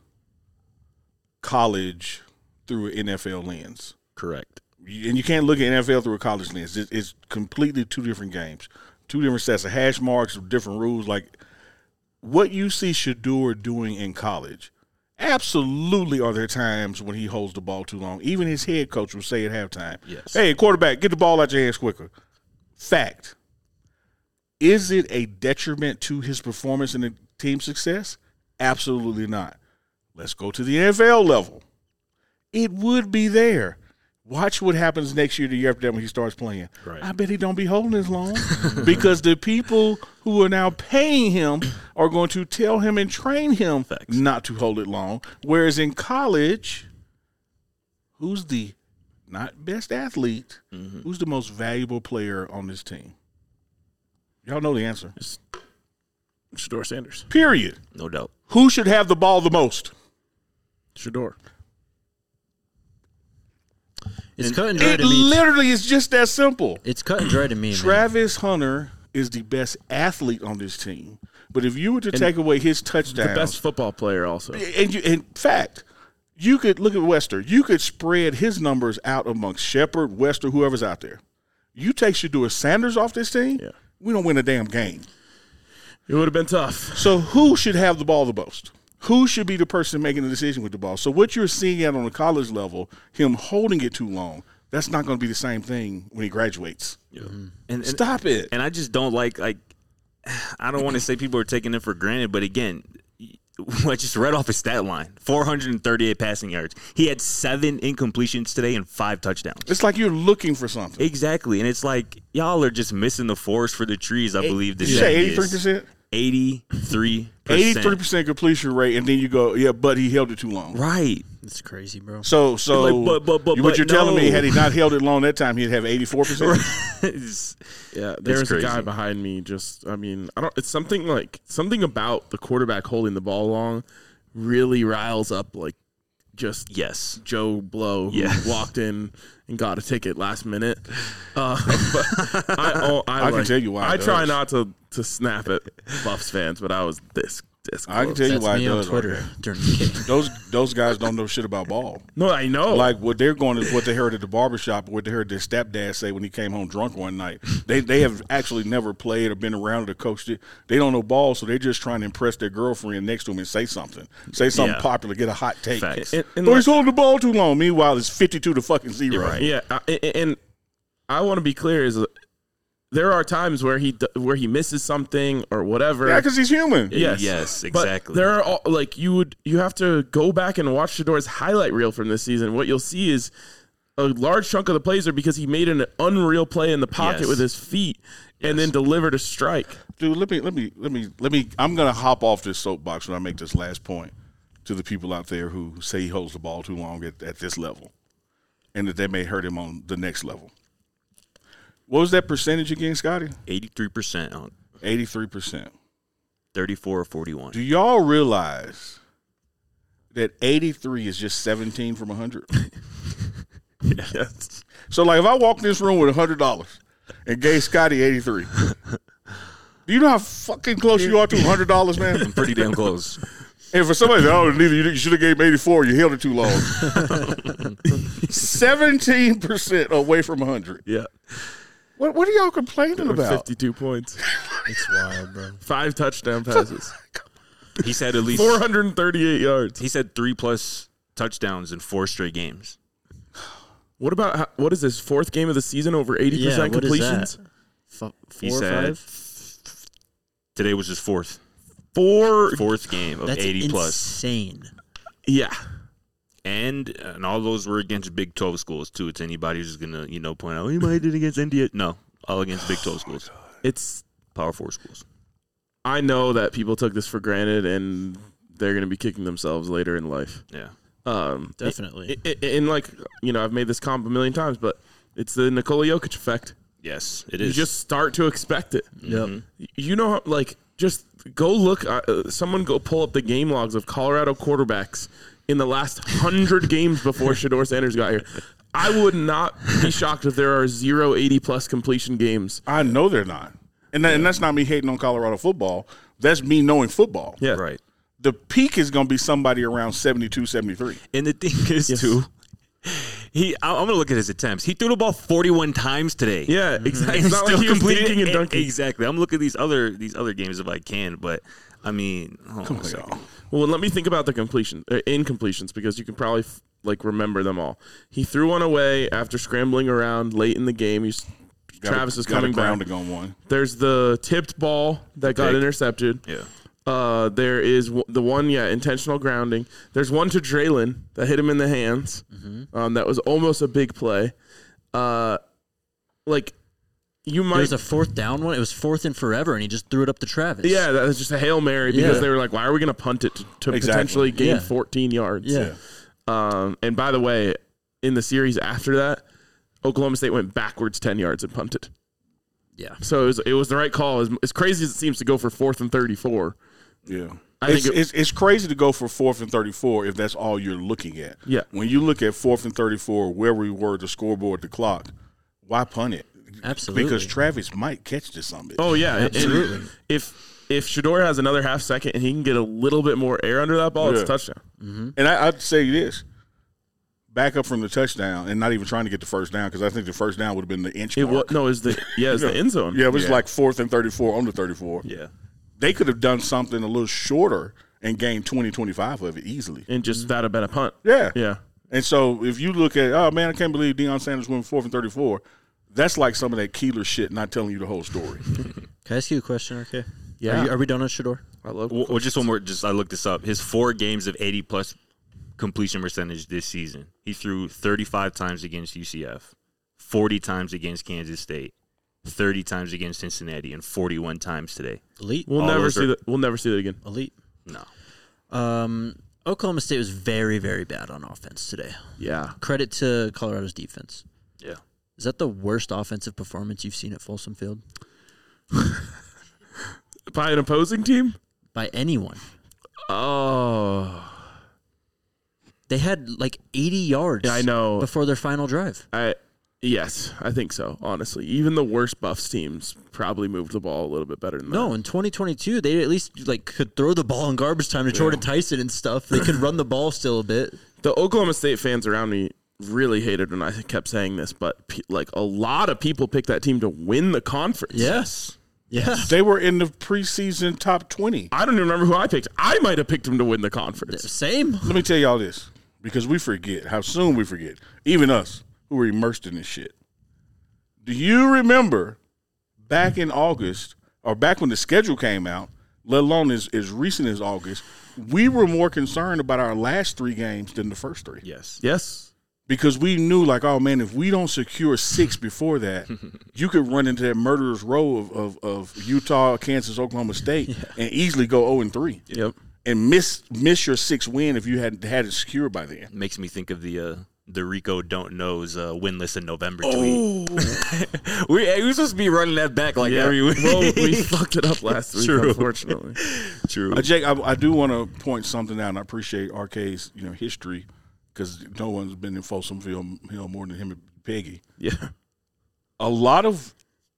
college through an NFL lens. Correct. And you can't look at NFL through a college lens. It's completely 2 different games, 2 different sets of hash marks, different rules. Like what you see Shedeur doing in college Absolutely are there times when he holds the ball too long. Even his head coach will say at halftime, Yes. hey, quarterback, get the ball out your hands quicker. Fact. Is it a detriment to his performance and the team success? Absolutely not. Let's go to the NFL level. It would be there. Watch what happens next year, the year after that when he starts playing. Right. I bet he don't be holding as long because the people who are now paying him are going to tell him and train him not to hold it long. Whereas in college, who's the not best athlete, who's the most valuable player on this team? Y'all know the answer. Shador Sanders. Period. No doubt. Who should have the ball the most? Shador. It's cut and dry It to me. literally is just that simple. It's cut and dry to me, man. Travis Hunter is the best athlete on this team. But if you were to take away his touchdowns, The best football player also. and in fact, you could look at Wester. You could spread his numbers out amongst Shepard, Wester, whoever's out there. You take Shador Sanders off this team, Yeah. we don't win a damn game. It would have been tough. So who should have the ball the most? Who should be the person making the decision with the ball? So what you're seeing at on the college level, him holding it too long, that's not going to be the same thing when he graduates. And Stop it. And I just don't like I don't want to say people are taking it for granted, but again, I just read off his stat line: 438 passing yards. He had 7 incompletions today and 5 touchdowns. It's like you're looking for something. Exactly, and it's like y'all are just missing the forest for the trees. I believe Did this you say is 83%? 83%. 83% completion rate, and then you go, yeah, but he held it too long. Right. It's crazy, bro. So Like, but what you're telling me, no. had he not held it long that time, he'd have 84%? It's- Yeah, there's a crazy. guy behind me. It's something about the quarterback holding the ball long really riles up yes. Joe Blow who Yes. walked in and got a ticket last minute. But I can tell you why I it try does. not to snap at Buffs fans, but I was this close. I can tell you That's why me it on does. Twitter Right during the game. those guys don't know shit about ball. No, I know. Like what they're going is what they heard at the barbershop, or what they heard their stepdad say when he came home drunk one night. They have actually never played or been around or coached it. They don't know ball, so they're just trying to impress their girlfriend next to him and say something Yeah. popular, get a hot take. Facts. And Oh, he's holding the ball too long. Meanwhile, it's 52 to fucking 0. Right. Yeah, and I want to be clear: there are times where he misses something or whatever. Yeah, because he's human. Yes. Yes, But exactly. there are you have to go back and watch Shador's highlight reel from this season. What you'll see is a large chunk of the plays are because he made an unreal play in the pocket Yes. with his feet and then delivered a strike. Dude, let me. I'm gonna hop off this soapbox when I make this last point to the people out there who say he holds the ball too long at this level, and that they may hurt him on the next level. What was that percentage again, Scotty? 83% on 83%. 34 or 41. Do y'all realize that 83 is just 17 from 100? Yes. So, like, if I walk in this room with $100 and gave Scotty 83, do you know how fucking close you are to $100, man? Pretty damn close. And for somebody that, oh, neither you should have gave him 84, you held it too long. 17% away from 100. Yeah. What are y'all complaining about? 52 points. It's wild, bro. 5 touchdown passes. He's had at least 438 yards. He's had 3+ touchdowns in 4 straight games. What about what is this 4th game of the season over 80% Yeah, what is completions? that? 4 He's or had 5? Today was his 4th game of That's 80+. insane. Yeah. And all those were against Big 12 schools too. It's anybody who's gonna point out he might have did against India. No, all against Big 12 schools, It's Power 4 schools. I know that people took this for granted and they're going to be kicking themselves later in life. Yeah, Definitely. And I've made this comp a million times, but it's the Nikola Jokic effect. yes, it You is. just start to expect it. Yep. You know, how, just go look. Someone go pull up the game logs of Colorado quarterbacks in the last 100 games before Shador Sanders got here. I would not be shocked if there are 0 80+ completion games. I know they're not. And that's not me hating on Colorado football. That's me knowing football. Yeah. right. The peak is going to be somebody around 72, 73. And the thing is too, I'm gonna look at his attempts. He threw the ball 41 times today. Yeah, exactly. And It's not like still he was completed dinking and it. dunking. Exactly. I'm looking at these other games if I can, but I mean, hold on a second. Well, let me think about the incompletions because you can probably remember them all. He threw one away after scrambling around late in the game. Travis is coming back. Grounding on one. There's the tipped ball that got intercepted. Yeah. There is the one, intentional grounding. There's one to Draylon that hit him in the hands. That was almost a big play. You might. There's a fourth down one. It was fourth and forever, and he just threw it up to Travis. Yeah, that was just a Hail Mary because Yeah. they were like, why are we going to punt it to Exactly. potentially gain Yeah. 14 yards? Yeah. And by the way, in the series after that, Oklahoma State went backwards 10 yards and punted. Yeah. So it was the right call. As crazy as it seems to go for 4th and 34. Yeah. I think It's crazy to go for 4th and 34 if that's all you're looking at. Yeah. When you look at 4th and 34, where we were, the scoreboard, the clock, why punt it? Absolutely. Because Travis might catch this on it. Oh, yeah. Absolutely. And if Shedeur has another half second and he can get a little bit more air under that ball, it's a Yeah. touchdown. And I'd say this. Back up from the touchdown and not even trying to get the first down because I think the first down would have been the inch mark. It's the end zone. Yeah, it was like 4th and 34 on the 34. Yeah. They could have done something a little shorter and gained 20, 25 of it easily. And just that have been a punt. Yeah. Yeah. And so if you look at, oh, man, I can't believe Deion Sanders went 4th and 34, that's like some of that Keeler shit not telling you the whole story. Can I ask you a question, RK? Yeah. Are we done on Shedeur? I love Well, just one more. I looked this up. His 4 games of 80+ completion percentage this season. He threw 35 times against UCF, 40 times against Kansas State, 30 times against Cincinnati, and 41 times today. Elite. We'll All never those see are- that. We'll never see that again. Elite. No. Oklahoma State was very, very bad on offense today. Yeah. Credit to Colorado's defense. Yeah. Is that the worst offensive performance you've seen at Folsom Field By an opposing team? by anyone? Oh. They had like 80 yards. Yeah, I know. Before their final drive. Yes, I think so, honestly. Even the worst Buffs teams probably moved the ball a little bit better than No, that. in 2022, they at least could throw the ball in garbage time to Jordan Tyson and stuff. They could run the ball still a bit. The Oklahoma State fans around me really hated when I kept saying this, but a lot of people picked that team to win the conference. Yes. Yeah. They were in the preseason top 20. I don't even remember who I picked. I might have picked them to win the conference. Same. Let me tell y'all this, because we forget how soon we forget, even us who were immersed in this shit. Do you remember back in August, or back when the schedule came out, let alone as recent as August, we were more concerned about our last 3 games than the first 3. Yes. Yes. Because we knew, oh, man, if we don't secure 6 before that, you could run into that murderer's row of Utah, Kansas, Oklahoma State and easily go 0-3. Yep. And miss your 6th win if you had it secured by then. Makes me think of the Rico Don't Knows winless in November tweet. We're supposed to be running that back every week. Well, we fucked it up last week, True. unfortunately. True. Jake, I do want to point something out, and I appreciate RK's history because no one's been in Folsom Field more than him and Peggy. Yeah. A lot of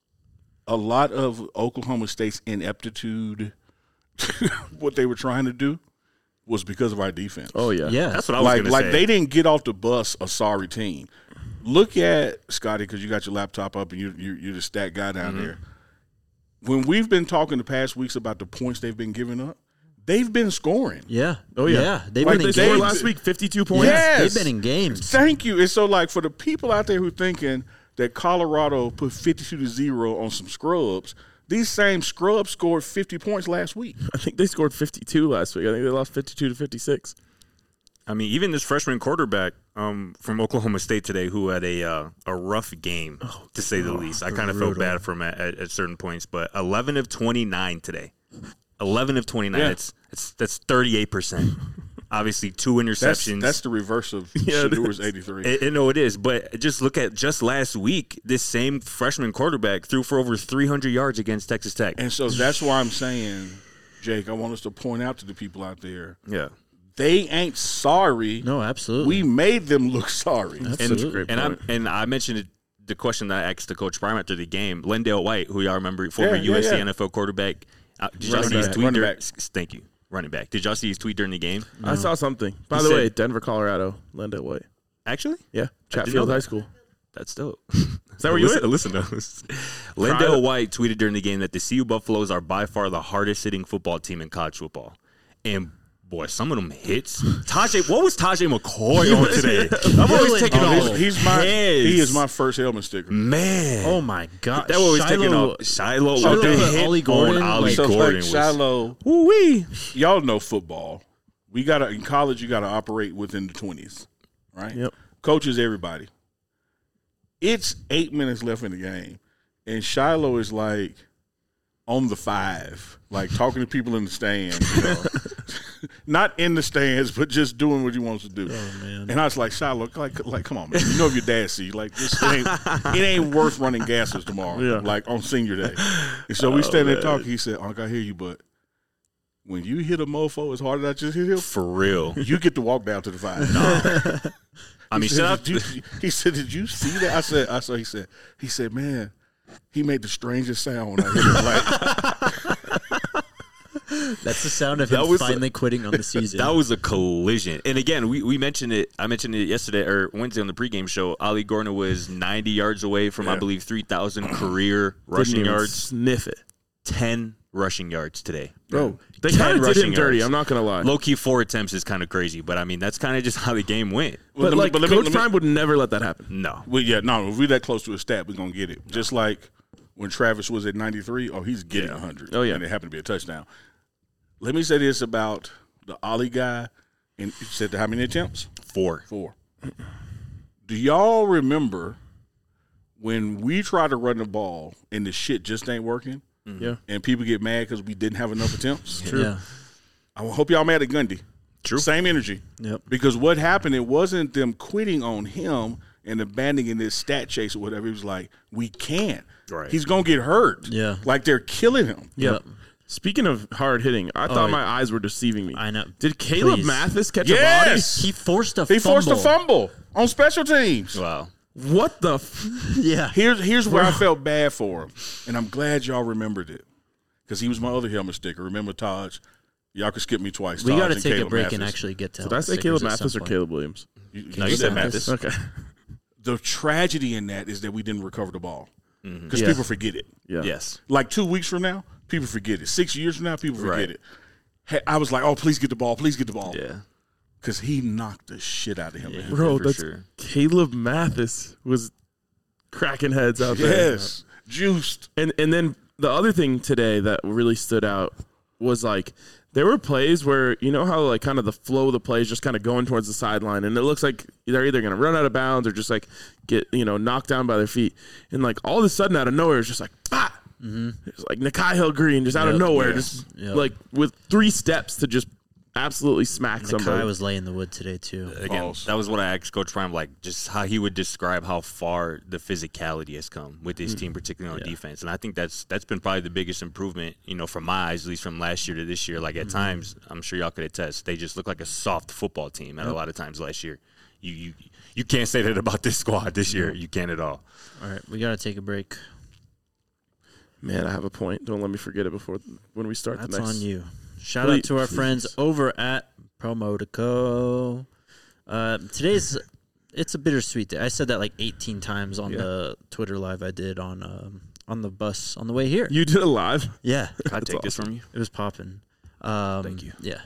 Oklahoma State's ineptitude, what they were trying to do, was because of our defense. Oh, yeah. Yeah. That's what I was going to say. They didn't get off the bus a sorry team. Look at Scotty, because you got your laptop up and you're the stat guy down there. When we've been talking the past weeks about the points they've been giving up, they've been scoring. Yeah. Oh, yeah. Yeah. They've Like been in They scored games. last week 52 points. Yes. They've been in games. Thank you. And so, for the people out there who thinking that Colorado put 52-0 on some scrubs, these same scrubs scored 50 points last week. I think they scored 52 last week. I think they lost 52-56. I mean, even this freshman quarterback from Oklahoma State today, who had a rough game, to say the least. I kind of felt bad for him at certain points, but 11 of 29 today. 11 of 29. Yeah. That's 38%. Obviously, 2 interceptions. That's the reverse of Yeah, it Shadour's 83. No, it is. But just look at just last week, this same freshman quarterback threw for over 300 yards against Texas Tech. And so that's why I'm saying, Jake, I want us to point out to the people out there, Yeah. they ain't sorry. No, absolutely. We made them look sorry. Absolutely. And I mentioned the question that I asked the coach Prime after the game. Lendale White, who y'all remember, former Yeah, USC yeah. NFL quarterback. Did y'all Running see his back. tweet? Running during- back. Thank you. Running back. Did y'all see his tweet during the game? I saw something. By He the said- way, Denver, Colorado, Lendale White. Actually? Yeah, know Chatfield that. High School. That's dope. Is that where you went? Listen to us. Lendale White tweeted during the game that the CU Buffaloes are by far the hardest hitting football team in college football. And boy, some of them hits. What was Tajay McCoy on today? I'm always taking off. He is my first helmet sticker. Man. Oh my God! That was taking off. Shiloh with the hit Ollie Gordon, on Ollie So Gordon. like Shiloh, Woo-wee. y'all know football. We gotta in college. You gotta operate within the 20s, right? Yep. Coaches, everybody. It's 8 minutes left in the game, and Shiloh is like on the 5, like talking to people in the stands. You know? Not in the stands, but just doing what he wants to do. Oh man! And I was like, Shiloh, like, come on, man. You know if your dad see, like, it ain't worth running gases tomorrow, Yeah. like on senior day. And so we stand there talking. He said, Uncle, I hear you, but when you hit a mofo as hard as I just hit him, For real. you get to walk down to the 5. I mean, shout out to He said, did you see that? I said, he said, man, he made the strangest sound when I hit him. Like, That's the sound of That him was finally quitting on the season. that was a collision. And again, we mentioned it. I mentioned it yesterday or Wednesday on the pregame show. Ollie Gordon was 90 yards away from, I believe, 3,000 career rushing Didn't even yards. Sniff it. 10 rushing yards today. Bro, they 10 kind of did him rushing dirty. yards. I'm not going to lie. Low key 4 attempts is kind of crazy, but I mean that's kind of just how the game went. But, like, Coach Prime would never let that happen. No, well, yeah, no, if we're that close to a stat, we're going to get it. Just like when Travis was at 93, he's getting 100. Oh, yeah. And it happened to be a touchdown. Let me say this about the Ollie guy. And you said how many attempts? 4. 4. Do y'all remember when we try to run the ball and the shit just ain't working? Yeah. And people get mad because we didn't have enough attempts? Yeah. I hope y'all mad at Gundy. True. Same energy. Yep. Because what happened, it wasn't them quitting on him and abandoning this stat chase or whatever. It was like, we can't. Right. He's going to get hurt. Yeah. Like they're killing him. Yep. Speaking of hard hitting, I thought my eyes were deceiving me. I know. Did Caleb Please. Mathis catch a Yes. He forced a He fumble. forced a fumble on special teams. Wow. body? What the? Yeah. Here's where I felt bad for him. And I'm glad y'all remembered it. Because he was my other helmet sticker. Remember Taj? Y'all could skip me twice. We Taj got to and take a Caleb break Mathis. and actually get to. Did I say stickers Caleb at Mathis some or point. Caleb Williams? You you said Mathis. Okay. The tragedy in that is that we didn't recover the ball. Because Yeah. people forget it. Yeah. Yes. Like 2 weeks from now, people forget it. 6 years from now, people forget Right. it. Hey, I was like, oh, please get the ball. Please get the ball. Yeah. Because he knocked the shit out of him. man. Bro, for that's sure. Caleb Mathis was cracking heads out there. Yes. Juiced. And then the other thing today that really stood out was like there were plays where you know how like kind of the flow of the play is just kind of going towards the sideline and it looks like they're either going to run out of bounds or just like get knocked down by their feet and like all of a sudden out of nowhere it's just like bah! It's like Nakai Hill Green just out of Yep. nowhere Yes. just Yep. like with 3 steps to just absolutely smack somebody. Nakai was laying the wood today too. Again, Balls. that was what I asked Coach Prime, like just how he would describe how far the physicality has come with his team, particularly on defense. And I think that's been probably the biggest improvement, from my eyes, at least from last year to this year. Like at times, I'm sure y'all could attest, they just look like a soft football team at a lot of times last year. You can't say that about this squad this year. You can't at all. All right, we got to take a break. Man, I have a point. Don't let me forget it before when we start That's the next. on you. Shout out to our friends over at Promotico. It's a bittersweet day. I said that like 18 times on the Twitter live I did on the bus on the way here. You did it live. Yeah, Can I take this from you? it was popping. Thank you. Yeah,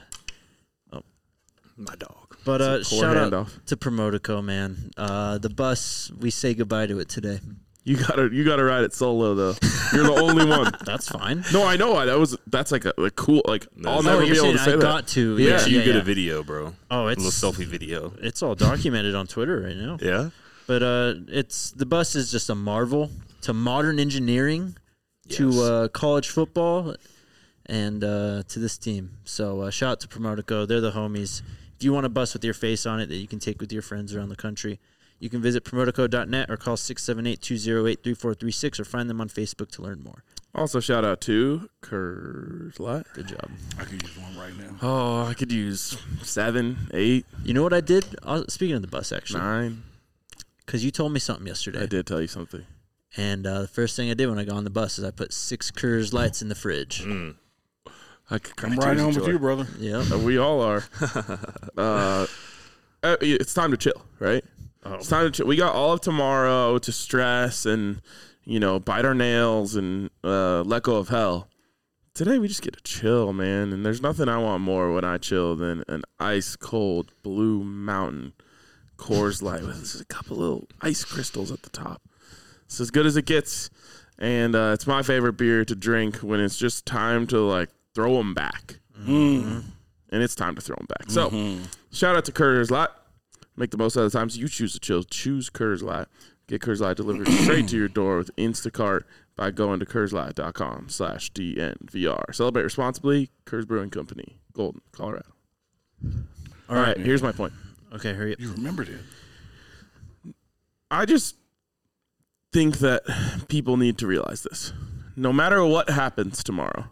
My dog. but Poor shout out handoff. to Promotico, man. The bus, we say goodbye to it today. You gotta ride it solo though. You're the only one. That's fine. No, I know. That's like a cool. Like I'll No, never be you're able saying to say I that. got to. Yeah. Make sure you get yeah. a video, bro. Oh, A it's little selfie video. It's all documented on Twitter right now. Yeah. But it's the bus is just a marvel to modern engineering, to college football, and to this team. So shout out to Promotico. They're the homies. If you want a bus with your face on it that you can take with your friends around the country, you can visit Promotico.net or call 678-208-3436 or find them on Facebook to learn more. Also, shout out to Kurzlat. Good job. I could use one right now. Oh, I could use 7, 8, You know what I did? Speaking of the bus, actually, 9. because you told me something yesterday. I did tell you something. And the first thing I did when I got on the bus is I put 6 Coors Lights in the fridge. I could I'm right home with you, brother. Yeah. We all are. It's time to chill, right? It's time to we got all of tomorrow to stress and, bite our nails and let go of hell. Today we just get to chill, man. And there's nothing I want more when I chill than an ice cold Blue Mountain Coors Light with a couple little ice crystals at the top. It's as good as it gets. And it's my favorite beer to drink when it's just time to throw them back. Mm-hmm. And it's time to throw them back. So shout out to Coors Light. Make the most out of the times you choose to chill. Choose Coors Light. Get Coors Light delivered straight to your door with Instacart by going to CoorsLight.com/DNVR. Celebrate responsibly. Coors Brewing Company, Golden, Colorado. All right, here's my point. Okay, hurry up. You remembered it. I just think that people need to realize this. No matter what happens tomorrow,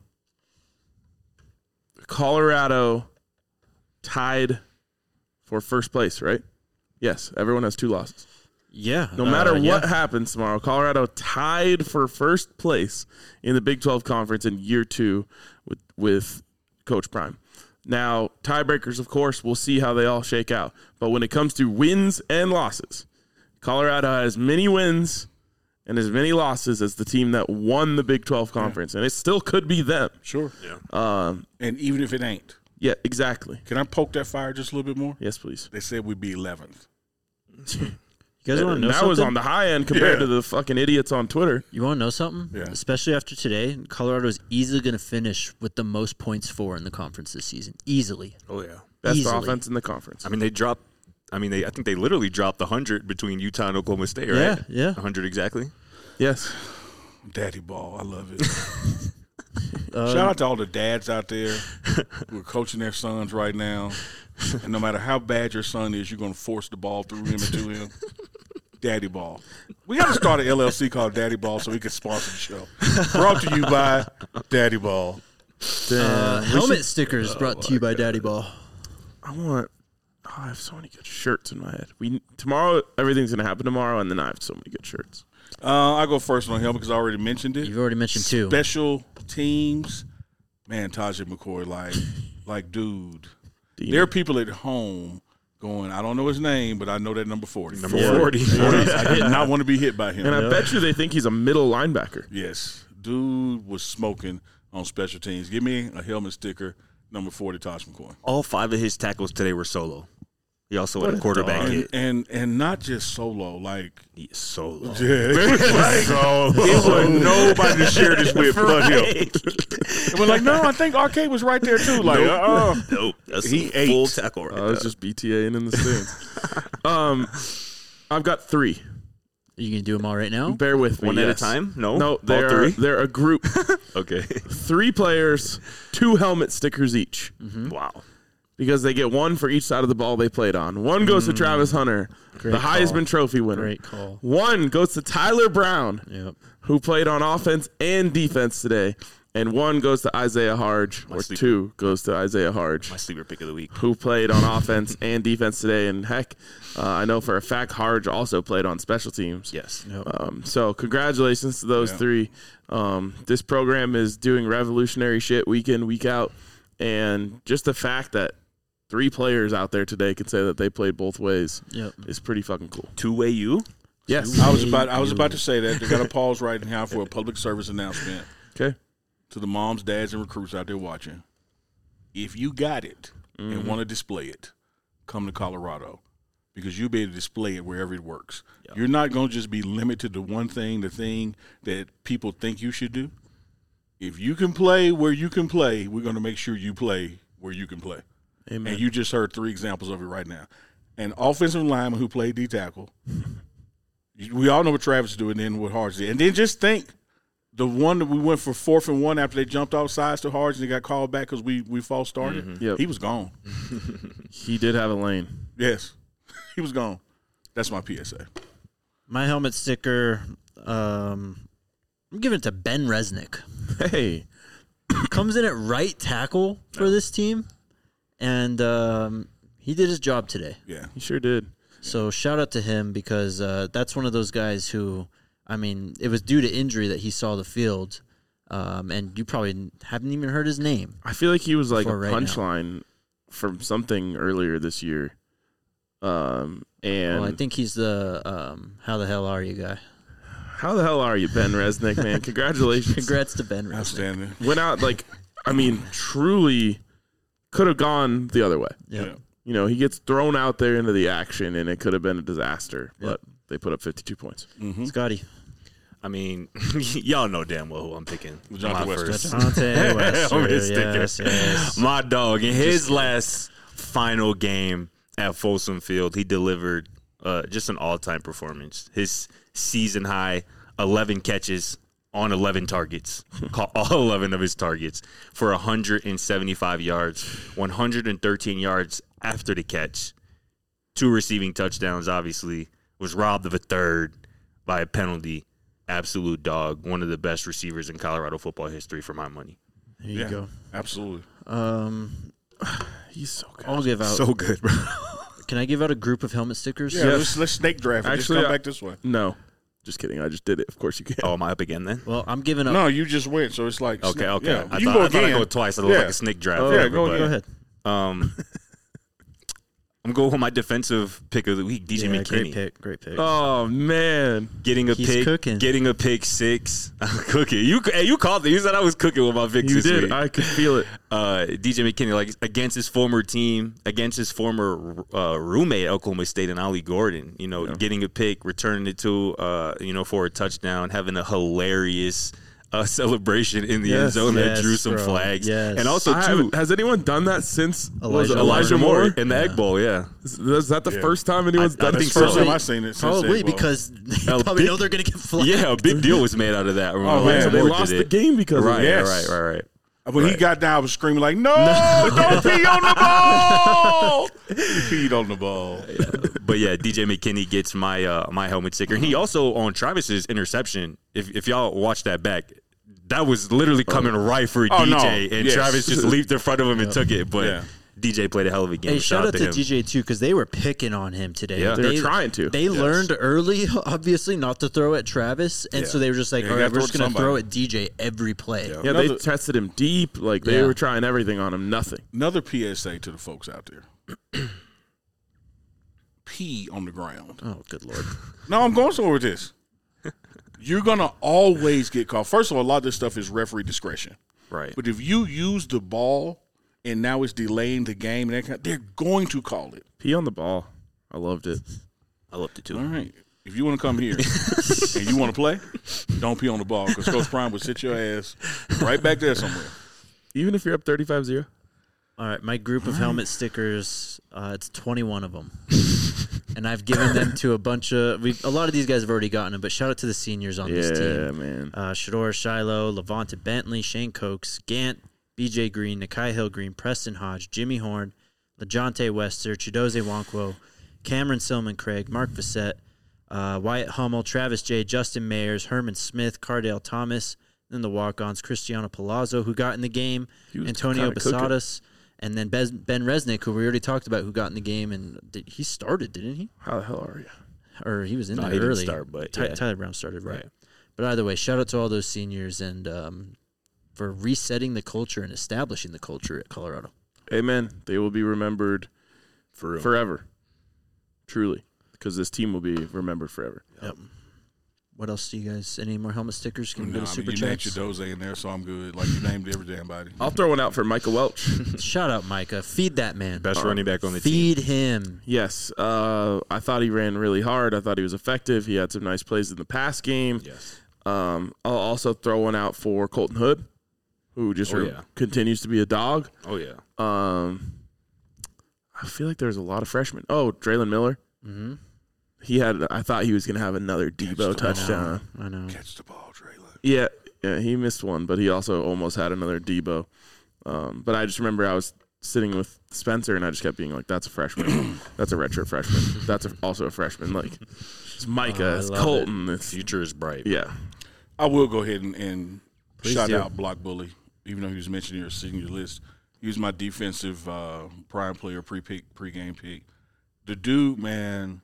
Colorado tied for first place, right? Yes, everyone has 2 losses. Yeah. No matter what happens tomorrow, Colorado tied for first place in the Big 12 Conference in year 2 with Coach Prime. Now, tiebreakers, of course, we'll see how they all shake out. But when it comes to wins and losses, Colorado has as many wins and as many losses as the team that won the Big 12 Conference. And it still could be them. Sure. Yeah. And even if it ain't. Yeah, exactly. Can I poke that fire just a little bit more? Yes, please. They said we'd be 11th. You guys want to know that something? was on the high end compared to the fucking idiots on Twitter. You want to know something? Yeah. Especially after today, Colorado is easily going to finish with the most points for in the conference this season. Easily. Oh yeah. Best Easily. offense in the conference. I mean, I think they literally dropped 100 between Utah and Oklahoma State, right? Yeah. 100 exactly. Yes. Daddy ball. I love it. Shout out to all the dads out there who are coaching their sons right now. And no matter how bad your son is, you're going to force the ball through him and to him. Daddy Ball. We got to start an LLC called Daddy Ball so we can sponsor the show. Brought to you by Daddy Ball. Helmet stickers brought to you by Daddy Ball. I have so many good shirts in my head. Tomorrow, everything's going to happen tomorrow, and then I have so many good shirts. I go first on helmet because I already mentioned it. You've already mentioned 2. Special teams. Man, Tajay McCoy, dude. There are people at home going, I don't know his name, but I know that number 40. Number 40. I did not want to be hit by him. And I bet you they think he's a middle linebacker. Yes. Dude was smoking on special teams. Give me a helmet sticker, number 40, Taj McCoy. All 5 of his tackles today were solo. He also had a quarterback hit. And not just solo, He is solo. it was nobody to share this with but him. And we're no, I think Arcade was right there too. Nope. That's He a full ate. tackle right I was just BTAing in the stands. I've got 3. You can do them all right now? Bear with me. One at a time? No? No, All they're 3? they're a group. Okay. 3 players, 2 helmet stickers each. Wow. Because they get 1 for each side of the ball they played on. 1 goes to Travis Hunter, the Heisman Trophy winner. Great call. 1 goes to Tyler Brown, Yep. who played on offense and defense today. And 1 goes to Isaiah Harge, or 2 goes to Isaiah Harge, My sleeper pick of the week. who played on offense and defense today. And heck, I know for a fact Harge also played on special teams. Yes. Yep. So congratulations to those 3. This program is doing revolutionary shit week in, week out. And just the fact that 3 players out there today can say that they played both ways is pretty fucking cool. Two-way you? Yes. I was about to say that. They got to pause right now for a public service announcement. Okay. To the moms, dads, and recruits out there watching. If you got it and want to display it, come to Colorado because you'll be able to display it wherever it works. Yep. You're not going to just be limited to one thing, the thing that people think you should do. If you can play where you can play, we're going to make sure you play where you can play. Amen. And you just heard 3 examples of it right now. An offensive lineman who played D-tackle. We all know what Travis did and then what Harge did. And then just think, the one that we went for 4th and 1 after they jumped off sides to Harge and they got called back because we false started. Mm-hmm. Yep. He was gone. He did have a lane. Yes. He was gone. That's my PSA. My helmet sticker, I'm giving it to Ben Resnick. Hey. Comes in at right tackle for this team, and he did his job today. Yeah. He sure did. So shout out to him because that's one of those guys who, I mean, it was due to injury that he saw the field, and you probably haven't even heard his name. I feel like he was like a For right now. punchline from something earlier this year. And Well, I think he's the how the hell are you guy. how the hell are you, Ben Resnick, man? Congratulations. Congrats to Ben Resnick. Outstanding. Went out truly could have gone the other way. Yep. You know, he gets thrown out there into the action, and it could have been a disaster. But they put up 52 points. Scotty. I mean, y'all know damn well who I'm picking. DeJounte My Wester. first. Dejounte Wester. I'm just thinking. Yes. My dog in his last final game at Folsom Field, he delivered just an all-time performance. His season high 11 catches on 11 targets, caught all 11 of his targets for 175 yards, 113 yards after the catch, 2 receiving touchdowns. Obviously, was robbed of a third by a penalty. Absolute dog, one of the best receivers in Colorado football history for my money. There you go. Absolutely. He's so good. I'll give out. So good, bro. Can I give out a group of helmet stickers? Yeah, let's snake draft it. Actually, just come back this way. No. Just kidding. I just did it. Of course you can. Oh, am I up again then? Well, I'm giving up. No, you just went, so it's like Okay, okay. Yeah, I you thought, go I thought again. I'd go twice. I look Yeah. like a snake draft. Yeah, whatever, go but, Go ahead. I'm going with my defensive pick of the week, DJ Yeah, McKinney. Great pick. Oh, man. Getting a He's pick, cooking. getting a pick 6. I'm cooking. You called it. You said I was cooking with my picks You this did. week. I could feel it. DJ McKinney, like against his former team, against his former roommate at Oklahoma State and Ollie Gordon. You know, getting a pick, returning it to for a touchdown, having a hilarious celebration in the end zone that Yes, drew some bro. flags, Yes. and also Has anyone done that since Elijah Moore? in the Egg Bowl. Yeah, Is that the first time anyone's I done think it? so. First time I've seen it. Since Probably Egg Bowl. because they probably know they're going to get flagged. yeah, a big deal was made out of that. Oh, Elijah man. They Moore lost did the it. game because Right, of it. Yes. right. When he got down, I was screaming like, "No, don't pee on the ball!" He peed on the ball. But yeah, DJ McKinney gets my my helmet sticker. And he also on Travis's interception. If y'all watch that back, that was literally coming right for Oh, DJ, no. and Yes. Travis just leaped in front of him and took it. But Yeah. DJ played a hell of a game. Hey, shout out to him. DJ too because they were picking on him today. Yeah. They're trying to. They learned early, obviously, not to throw at Travis, and so they were just like, Yeah, "All you right, gotta we're just throw going it to to throw at DJ every play." Yeah. Yeah, they Another- tested him deep. Like, they Yeah. were trying everything on him. Nothing. Another PSA to the folks out there: pee on the ground. Oh, good lord! No, I'm going somewhere with this. You're gonna always get called. First of all, a lot of this stuff is referee discretion. Right. But if you use the ball and now it's delaying the game, and that kind they're going to call it. Pee on the ball. I loved it. I loved it too. All right. If you want to come here and you want to play, don't pee on the ball because Coach Prime will sit your ass right back there somewhere. Even if you're up 35-0. All right, my group of helmet stickers, it's 21 of them. And I've given them to a bunch of – a lot of these guys have already gotten them, but shout out to the seniors on this Yeah, team. man. Shador Shiloh, Levante Bentley, Shane Cokes, Gant, BJ Green, Nakai Hill Green, Preston Hodge, Jimmy Horn, LeJounte Wester, Chidoze Wonkwo, Cameron Silman Craig, Mark Fassett, Wyatt Hummel, Travis J., Justin Mayers, Herman Smith, Cardale Thomas, then the walk-ons, Cristiano Palazzo, who got in the game, was Antonio kinda cooking. Basadas, and then Ben Resnick, who we already talked about, who got in the game, and he started, didn't he? How the hell are you? Or he was in No, there he didn't early. start, but yeah. Tyler Brown started, right. Right. But either way, shout out to all those seniors and for resetting the culture and establishing the culture at Colorado. Amen. They will be remembered For real. forever. Truly. Because this team will be remembered forever. Yep. What else do you guys? Any more helmet stickers? Can we go to Super you named Chats? Chidoze in there, so I'm good. Like you named every damn body. I'll throw one out for Micah Welch. Shout out Micah. Feed that man. Best running back on the team. Feed him. Yes. I thought he ran really hard. I thought he was effective. He had some nice plays in the pass game. Yes. I'll also throw one out for Colton Hood, who just continues to be a dog. Oh yeah. I feel like there's a lot of freshmen. Oh, Draylon Miller. Mm-hmm. I thought he was going to have another Debo touchdown. I know. Catch the ball, Traylon. Yeah, he missed one, but he also almost had another Debo. But I just remember I was sitting with Spencer, and I just kept being like, "That's a freshman. That's a redshirt freshman. That's also a freshman." Like, it's Micah, it's love Colton. It's Future is bright. yeah. I will go ahead and Please shout do. out Block Bully, even though he was mentioned in your senior list. He was my defensive prime player pre-game pick. The dude, man,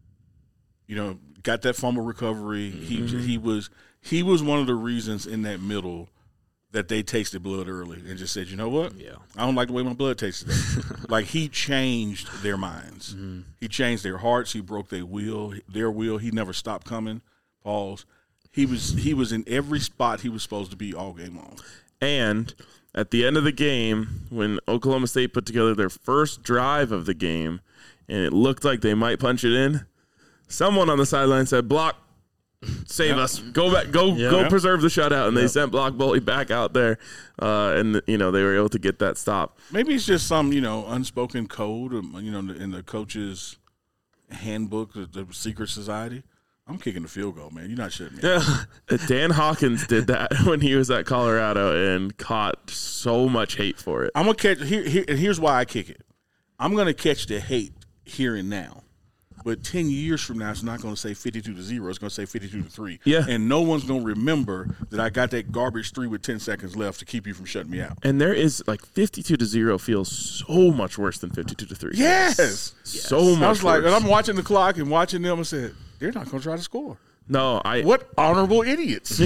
got that fumble recovery. He was one of the reasons in that middle that they tasted blood early and just said, you know what? Yeah. I don't like the way my blood tastes today. Like, he changed their minds. He changed their hearts. He broke their will. He never stopped coming. Pause. He was in every spot he was supposed to be all game long. And at the end of the game, when Oklahoma State put together their first drive of the game, and it looked like they might punch it in, someone on the sideline said, "Block, save us, go back, go preserve the shutout." And they sent Block Bully back out there, and they were able to get that stop. Maybe it's just some unspoken code, in the coach's handbook, the secret society. I'm kicking the field goal, man. You're not shooting me. Dan Hawkins did that when he was at Colorado and caught so much hate for it. I'm gonna catch here's why I kick it. I'm gonna catch the hate here and now. But 10 years from now, it's not going to say 52-0. It's going to say 52-3. Yeah. And no one's going to remember that I got that garbage 3 with 10 seconds left to keep you from shutting me out. And there is 52-0 feels so much worse than 52-3. Yes. So much I was like, worse. and I'm watching the clock and watching them and said, they're not going to try to score. No, What honorable idiots.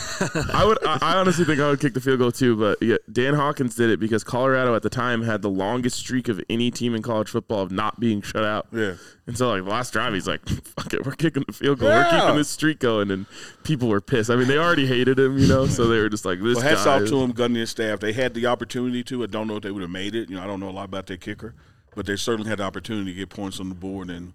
I honestly think I would kick the field goal too, but Dan Hawkins did it because Colorado at the time had the longest streak of any team in college football of not being shut out. Yeah. And so the last drive, he's like, "Fuck it, we're kicking the field goal. Yeah. We're keeping this streak going." And people were pissed. I mean, they already hated him, so they were just like, "This Well, hats guy." off to him, Gundy and his staff. They had the opportunity to. I don't know if they would have made it. I don't know a lot about their kicker, but they certainly had the opportunity to get points on the board and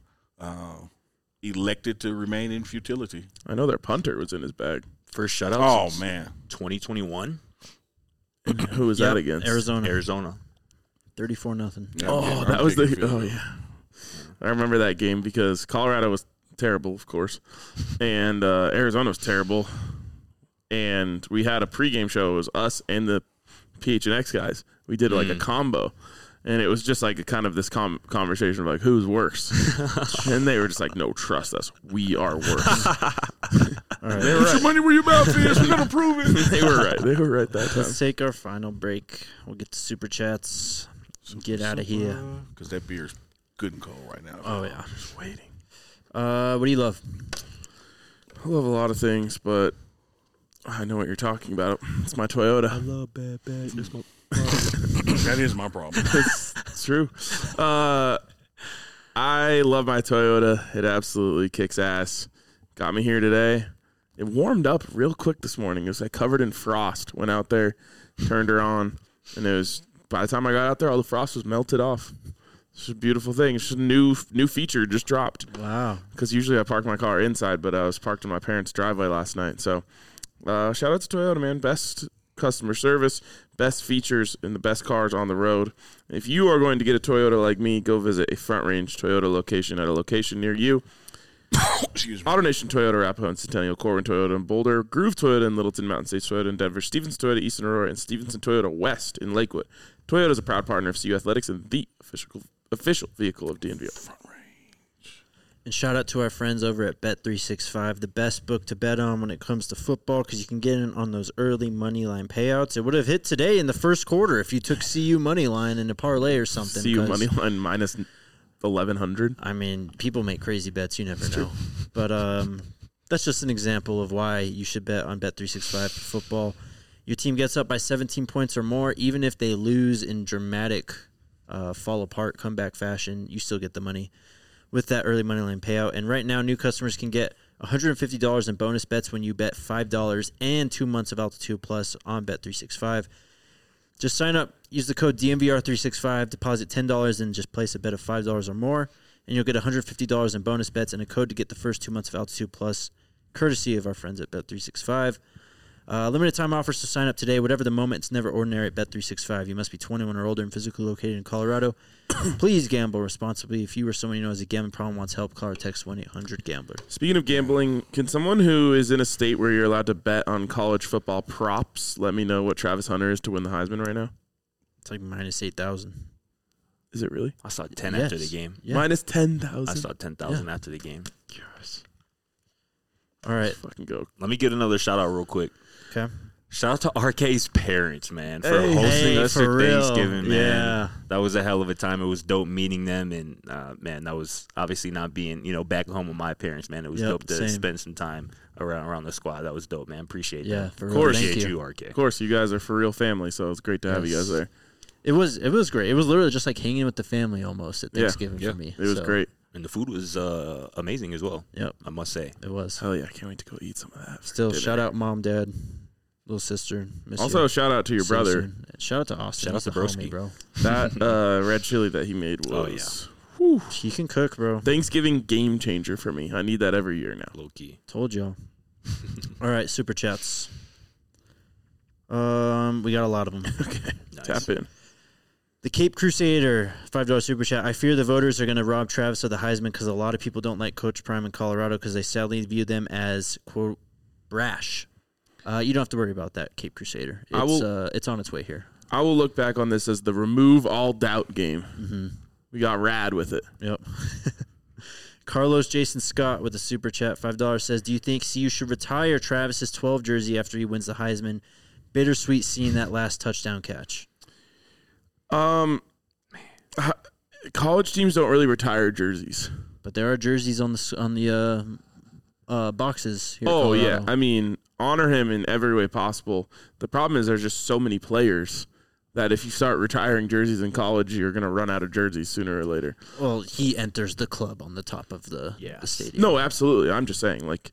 elected to remain in futility. I know their punter was in his bag. First shutout. Oh, since man. 2021. Who was that against? Arizona. 34-0. Yeah, Oh, I'm that was kicking the. field Oh, goal. yeah. I remember that game because Colorado was terrible, of course, and Arizona was terrible. And we had a pregame show. It was us and the PHNX guys. We did a combo. And it was just like kind of this conversation of who's worse. And they were just like, "No, trust us. We are worse." All right. They were Put your money where your mouth is. We're going to prove it. They were right. They were right that time. Let's take our final break. We'll get to Super Chats. Get out of here. Because that beer's good and cold right now. Oh, yeah. Just waiting. What do you love? I love a lot of things, but I know what you're talking about. It's my Toyota. love bad. It's my That is my problem. It's true. I love my Toyota. It absolutely kicks ass. Got me here today. It warmed up real quick this morning. It was covered in frost. Went out there, turned her on, and it was by the time I got out there, all the frost was melted off. It's a beautiful thing. It's just a new feature just dropped. Wow. Because usually I park my car inside, but I was parked in my parents' driveway last night. So shout out to Toyota, man. Best customer service, best features, and the best cars on the road. If you are going to get a Toyota like me, go visit a Front Range Toyota location at a location near you. Excuse me. AutoNation Toyota, Arapahoe and Centennial, Corwin Toyota in Boulder, Groove Toyota in Littleton, Mountain States Toyota in Denver, Stevenson Toyota, Eastern Aurora, and Stevenson Toyota West in Lakewood. Toyota is a proud partner of CU Athletics and the official vehicle of DNVR. And shout out to our friends over at Bet365, the best book to bet on when it comes to football because you can get in on those early money line payouts. It would have hit today in the first quarter if you took CU money line in a parlay or something. CU money line minus 1,100. I mean, people make crazy bets. You never know. But that's just an example of why you should bet on Bet365 for football. Your team gets up by 17 points or more, even if they lose in dramatic fall-apart comeback fashion, you still get the money with that early money line payout. And right now, new customers can get $150 in bonus bets when you bet $5 and 2 months of Altitude Plus on Bet365. Just sign up, use the code DNVR365, deposit $10, and just place a bet of $5 or more, and you'll get $150 in bonus bets and a code to get the first 2 months of Altitude Plus, courtesy of our friends at Bet365. Limited time offers to sign up today. Whatever the moment, it's never ordinary at Bet365. You must be 21 or older and physically located in Colorado. Please gamble responsibly. If you or someone you know has a gambling problem wants help, call or text 1-800-GAMBLER. Speaking of gambling, can someone who is in a state where you're allowed to bet on college football props let me know what Travis Hunter is to win the Heisman right now? It's like minus 8,000. Is it really? I saw 10 Yes. after the game. Yeah. Minus 10,000. I saw 10,000 after the game. All right. Fucking go. Let me get another shout out real quick. Okay. Shout out to RK's parents, man, for Hey. hosting Hey, us for for real. Thanksgiving, man. Yeah. That was a hell of a time. It was dope meeting them, and man, that was obviously not being, back home with my parents, man. It was Yep, dope to same. spend some time around the squad. That was dope, man. Appreciate Yeah, that. for real. course. Thank Appreciate you. you, RK. Of course, you guys are for real family, so it's great to have you Yes. guys there. It was great. It was literally just like hanging with the family almost at Yeah. Thanksgiving Yeah. for me. It was So, great. And the food was amazing as well, Yep, I must say. it was. Hell yeah, I can't wait to go eat some of that. for Still, dinner. shout out mom, dad, little sister. Miss Also, you. shout out to your See you brother. soon. Shout out to Austin. Shout out He's to the homie, Broski. bro. That red chili that he made Oh, was He can cook, bro. Thanksgiving game changer for me. I need that every year now. Low key. Told y'all. All right, super chats. We got a lot of them. Nice. Tap in. The Cape Crusader, $5 super chat. I fear the voters are going to rob Travis of the Heisman because a lot of people don't like Coach Prime in Colorado because they sadly view them as, quote, brash. You don't have to worry about that, Cape Crusader. It's on its way here. I will look back on this as the remove all doubt game. We got rad with it. Yep. Carlos Jason Scott with a super chat, $5 says, do you think CU should retire Travis's 12 jersey after he wins the Heisman? Bittersweet seeing that last touchdown catch. College teams don't really retire jerseys. But there are jerseys on the boxes here. at Oh, yeah. Colorado. I mean, honor him in every way possible. The problem is there's just so many players that if you start retiring jerseys in college, you're going to run out of jerseys sooner or later. Well, he enters the club on the top of the stadium. No, absolutely. I'm just saying, like,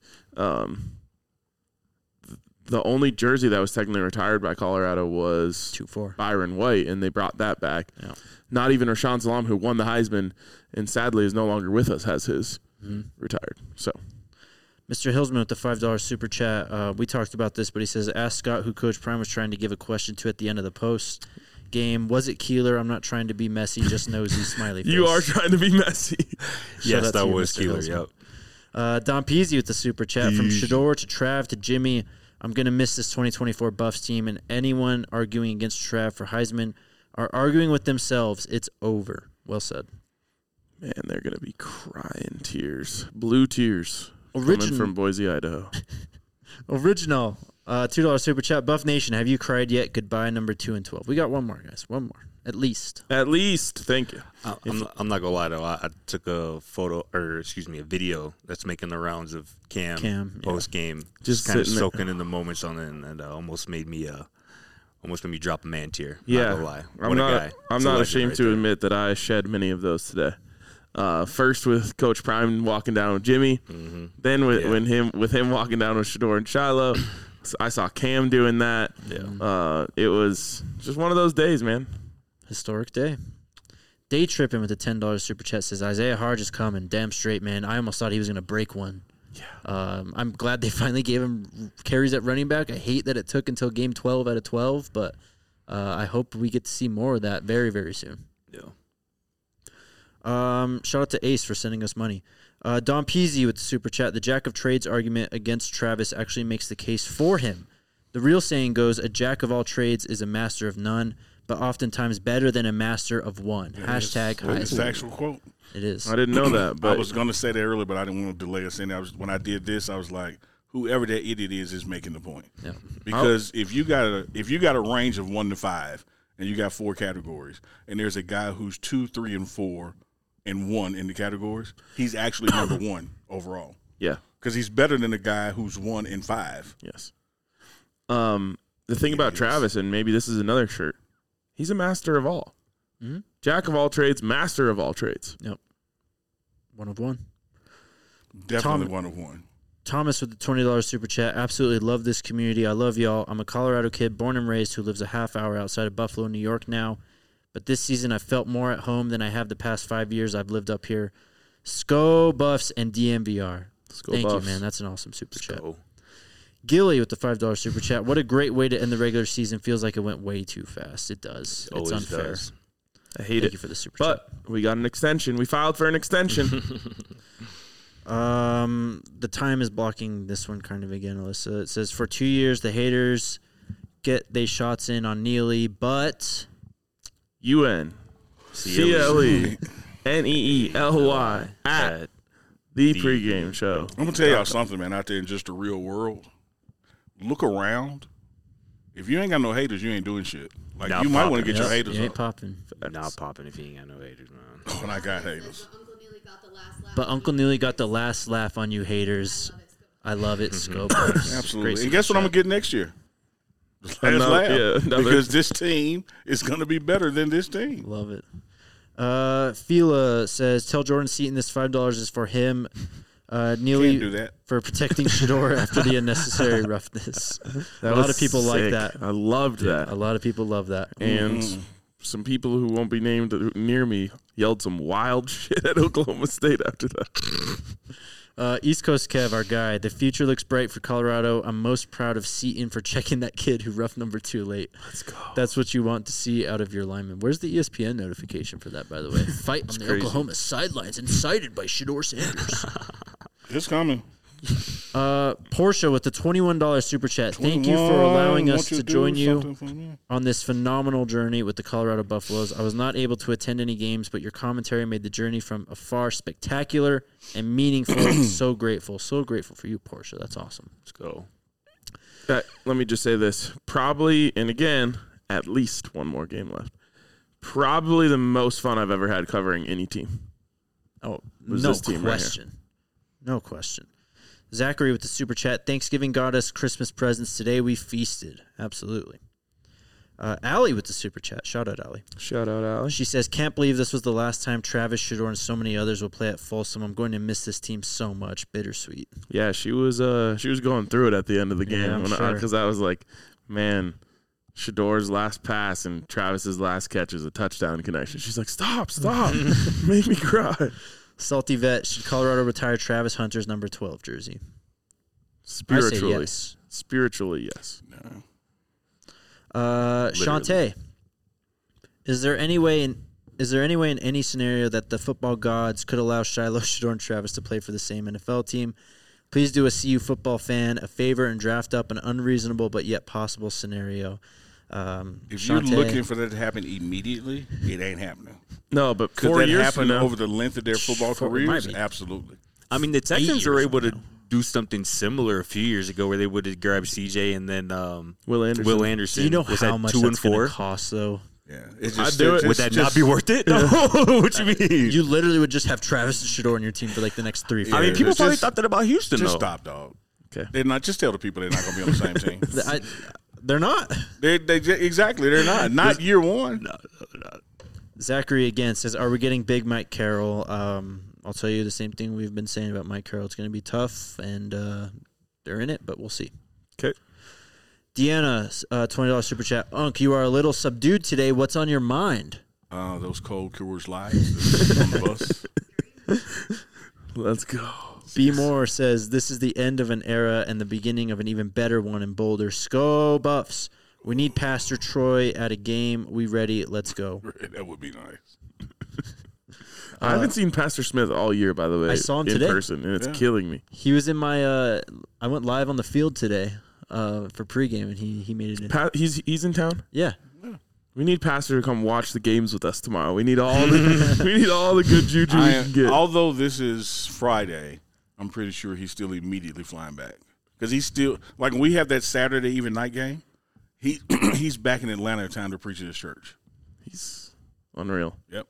the only jersey that was technically retired by Colorado was 2-4. Byron White, and they brought that back. Yeah. Not even Rashawn Salam, who won the Heisman and sadly is no longer with us, has his retired. So, Mr. Hillsman with the $5 super chat. We talked about this, but he says, ask Scott who Coach Prime was trying to give a question to at the end of the post game. Was it Keeler? I'm not trying to be messy, just nosy, smiley face. you are trying to be messy. Shout Yes, out to that you, was Mr. killer. Hillsman. Yep. Don Peasy with the super chat. From Shador to Trav to Jimmy, I'm going to miss this 2024 Buffs team, and anyone arguing against Trav for Heisman are arguing with themselves. It's over. Well said. Man, they're going to be crying tears. Blue tears. Coming Origin- from Boise, Idaho. Original. $2 super chat. Buff Nation, have you cried yet? Goodbye, number 2 and 12. We got one more, guys. One more. At least. At least. Thank you. I'm not gonna lie though. I took a video that's making the rounds of Cam yeah. post game, Just kind of sitting there. soaking in the moments on it, and almost made me drop a man tear. Yeah. Not gonna lie. I'm What a not, guy. I'm It's a not legend ashamed right to there. admit that I shed many of those today. First with Coach Prime walking down with Jimmy, then with him walking down with Shador and Shiloh. I saw Cam doing that. Yeah. It was just one of those days, man. Historic day. Day tripping with the $10 super chat says Isaiah Harge is coming. Damn straight, man. I almost thought he was going to break one. Yeah. I'm glad they finally gave him carries at running back. I hate that it took until game 12 out of 12, but I hope we get to see more of that very, very soon. Yeah. Shout out to Ace for sending us money. Don Peasy with the super chat. The jack of trades argument against Travis actually makes the case for him. The real saying goes, a jack of all trades is a master of none, but oftentimes better than a master of one. Hashtag It's the Heisman. actual quote. It is. I didn't know that, I but was going to say that earlier, but I didn't want to delay us in. When I did this, I was like, whoever that idiot is making the point. Yeah. Because if you got a range of 1 to 5 and you got 4 categories, and there's a guy who's 2, 3, and 4 and 1 in the categories, he's actually number 1 overall. yeah, Because he's better than the guy who's 1 and 5. yes. The thing about Yes. Travis, and maybe this is another shirt, he's a master of all. Mhm. Jack of all trades, master of all trades. Yep. 1 of 1. Definitely Tom- 1 of 1. Thomas with the $20 super chat. Absolutely love this community. I love y'all. I'm a Colorado kid, born and raised, who lives a half hour outside of Buffalo, New York now. But this season, I felt more at home than I have the past 5 years I've lived up here. Sco Buffs and DMVR. Let's go Thank Buffs. you, man. That's an awesome super chat. Go. Gilly with the $5 super chat. What a great way to end the regular season. Feels like it went way too fast. It does. Always It's unfair. does. I hate Thank it. you for the super chat. But we got an extension. We filed for an extension. The time is blocking this one kind of again, Alyssa. It says for 2 years the haters get they shots in on Neely, but UNCLE NEELY at the pregame show. I'm going to tell y'all something, man, out there in just the real world. Look around If you ain't got no haters, you ain't doing shit. Like Not you might want to popping. get your Yep, haters you ain't up. popping. Not popping if you ain't got no haters, man. When I got haters. Uncle Neely got the last laugh. But Uncle Neely got the last laugh on you haters. I love it. Scope. Absolutely. And guess what I'm gonna get next year? The last Another- laugh. yeah, another- Because this team is gonna be better than this team. Love it. Fila says, tell Jordan Seaton this $5 is for him. Neely Can't do that. for protecting Shador after the unnecessary roughness. A lot of people like that. I loved that. A lot of people love that. And some people who won't be named near me yelled some wild shit at Oklahoma State after that. East Coast Kev, our guy. The future looks bright for Colorado. I'm most proud of Seaton for checking that kid who roughed number 2 late. Let's go. That's what you want to see out of your lineman. Where's the ESPN notification for that, by the way? Fight on the crazy. Oklahoma sidelines incited by Shador Sanders. It's coming. Portia with the $21 super chat. Thank you for allowing us to join you on this phenomenal journey with the Colorado Buffaloes. I was not able to attend any games, but your commentary made the journey from afar spectacular and meaningful. So grateful for you, Portia. That's awesome. Let's go. Let me just say this. Probably, and again, at least one more game left. Probably the most fun I've ever had covering any team. Oh, Was no this team right here. question. No question. Zachary with the super chat. Thanksgiving got us Christmas presents. Today we feasted. Absolutely. Allie with the super chat. Shout out, Allie. Shout out, Allie. She says, can't believe this was the last time Travis Shador and so many others will play at Folsom. I'm going to miss this team so much. Bittersweet. Yeah, she was going through it at the end of the game Yeah, I'm sure. because I was like, man, Shador's last pass and Travis's last catch is a touchdown connection. She's like, stop, make me cry. Salty Vet, should Colorado retire Travis Hunter's number 12 jersey? Spiritually, I say yes. Spiritually, yes. Shantae, is there any way in any scenario that the football gods could allow Shiloh, Shador, and Travis to play for the same NFL team? Please do a CU football fan a favor and draft up an unreasonable but yet possible scenario. If you're looking for that to happen immediately, it ain't happening. No, but Could 4 that years happen from now, over the length of their football It might careers? be. Absolutely. I mean, the Texans 8 were years able from to now. do something similar a few years ago where they would have grabbed CJ and then Will Anderson. Will Anderson. Do you know was how that much 2 that's and going 4? to cost, though? Yeah. It's I'd do it. Would that not be worth it? No. What you mean? You literally would just have Travis and Shador on your team for like the next 3 Yeah. I mean, years. people It's probably just- thought that about Houston, Just though. stop, dog. Okay. They're not. Just tell the people they're not going to be on the same team. They're not. Exactly. They're not. Not year one. Zachary again says, "Are we getting big Mike Carroll?" I'll tell you the same thing we've been saying about Mike Carroll. It's going to be tough, and they're in it, but we'll see. Okay. Deanna, $20 super chat. Unc, you are a little subdued today. What's on your mind? Those cold Coors Lights on the bus. Let's go. B. Moore says, "This is the end of an era and the beginning of an even better one in Boulder. Go Buffs! We need Pastor Troy at a game. We ready? Let's go." That would be nice. I haven't seen Pastor Smith all year, by the way. I saw him in today. person, and it's Yeah. killing me. He was in my. I went live on the field today for pregame, and he made it in. He's in town. Yeah. We need Pastor to come watch the games with us tomorrow. We need all the good juju we can get. Although this is Friday, I'm pretty sure he's still immediately flying back because he's still like when we have that Saturday even night game. He's back in Atlanta in time to preach at his church. He's unreal. Yep.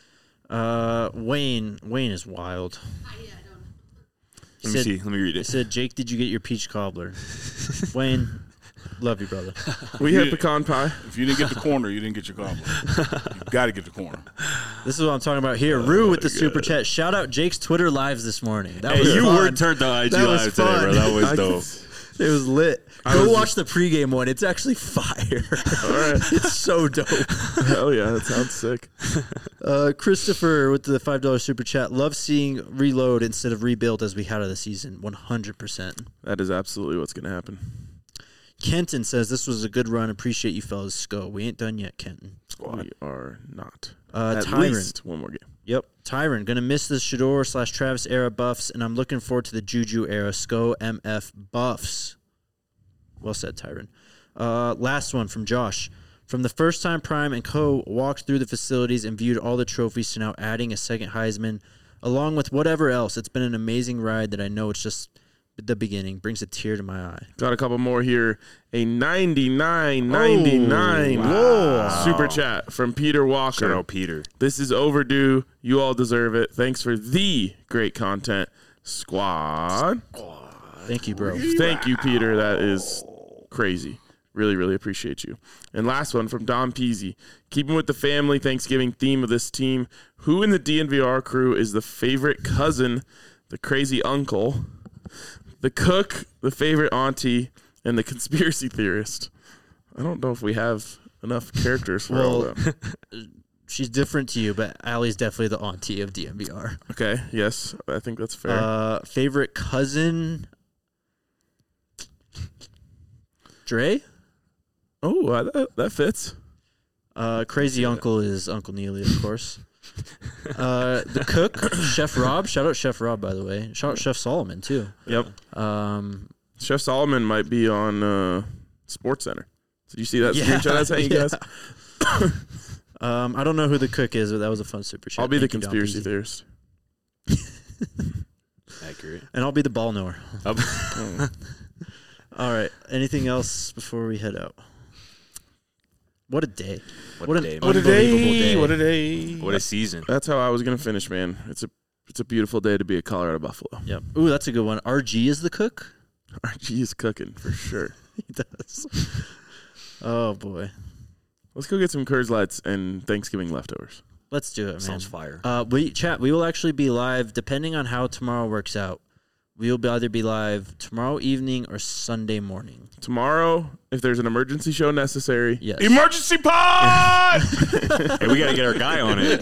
Wayne is wild. I don't know. Let me see. Let me read He it. said, "Jake, did you get your peach cobbler?" Wayne, love you, brother. We had pecan pie. If you didn't get the corner, you didn't get your cobbler. You got to get the corner. This is what I'm talking about here. Rue with the super chat. Shout out Jake's Twitter lives this morning. That Hey, was you fun. were turned on IG That was Live today, bro. That was I- dope. It was lit. I Go was watch the pregame one. It's actually fire. It's so dope. Hell yeah, that sounds sick. Christopher with the $5 super chat. Love seeing reload instead of rebuild as we had of the season. 100%. That is absolutely what's going to happen. Kenton says, "This was a good run. Appreciate you fellas. Go. We ain't done yet, Kenton." We are not. At Tyron. least one more game. Yep. Tyron, going to miss the Shador/Travis era buffs, and I'm looking forward to the Juju era. SCO MF buffs. Well said, Tyron. Last one from Josh. From the first time Prime and Co. walked through the facilities and viewed all the trophies to now adding a second Heisman, along with whatever else, it's been an amazing ride that I know it's just the beginning. Brings a tear to my eye. Got a couple more here. A 99.99 super chat from Peter Walker. Shout out Peter. This is overdue. You all deserve it. Thanks for the great content, squad. Thank you, bro. Thank you, Peter. That is crazy. Really, really appreciate you. And last one from Don Peasy. Keeping with the family Thanksgiving theme of this team, who in the DNVR crew is the favorite cousin, the crazy uncle, the cook, the favorite auntie, and the conspiracy theorist? I don't know if we have enough characters for all of them. She's different to you, but Allie's definitely the auntie of DNVR. Okay, yes, I think that's fair. Favorite cousin? Dre? Oh, that fits. Crazy uncle is Uncle Neely, of course. The cook, Chef Rob. Shout out Chef Rob, by the way. Shout out Chef Solomon, too. Yep. Chef Solomon might be on Sports Center. Did you see that screenshot I sent you guys? I don't know who the cook is, but that was a fun super chat. I'll be Thank the you, Don conspiracy Peasy. theorist. Accurate. And I'll be the ball knower. All right. Anything else before we head out? What a day. What a day, man. Unbelievable day. What a day. What a season. That's how I was gonna finish, man. It's a beautiful day to be a Colorado Buffalo. Yep. Ooh, that's a good one. RG is the cook? RG is cooking for sure. He does. Oh, boy. Let's go get some Coors Lights and Thanksgiving leftovers. Let's do it, man. Sounds fire. We will actually be live, depending on how tomorrow works out. We will either be live tomorrow evening or Sunday morning. Tomorrow, if there's an emergency show necessary, Yes. emergency pod! Hey, we got to get our guy on it.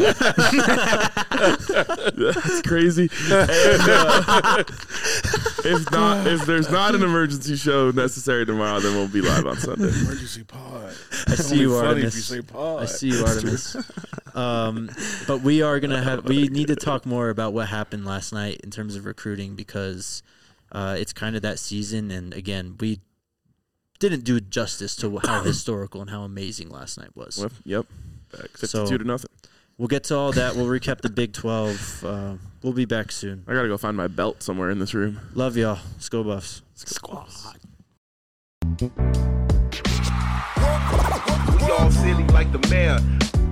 That's crazy. And, if there's not an emergency show necessary tomorrow, then we'll be live on Sunday. Emergency pod. I see you, Funny Artemis. if you say pod. I see you, Artemis. But we are gonna we need to talk more about what happened last night in terms of recruiting, because it's kind of that season, and again, we didn't do justice to how historical and how amazing last night was. Well, yep. 52-0. We'll get to all that. We'll recap the Big 12. We'll be back soon. I gotta go find my belt somewhere in this room. Love y'all. Let's go Buffs. Squad. We all silly like the mayor.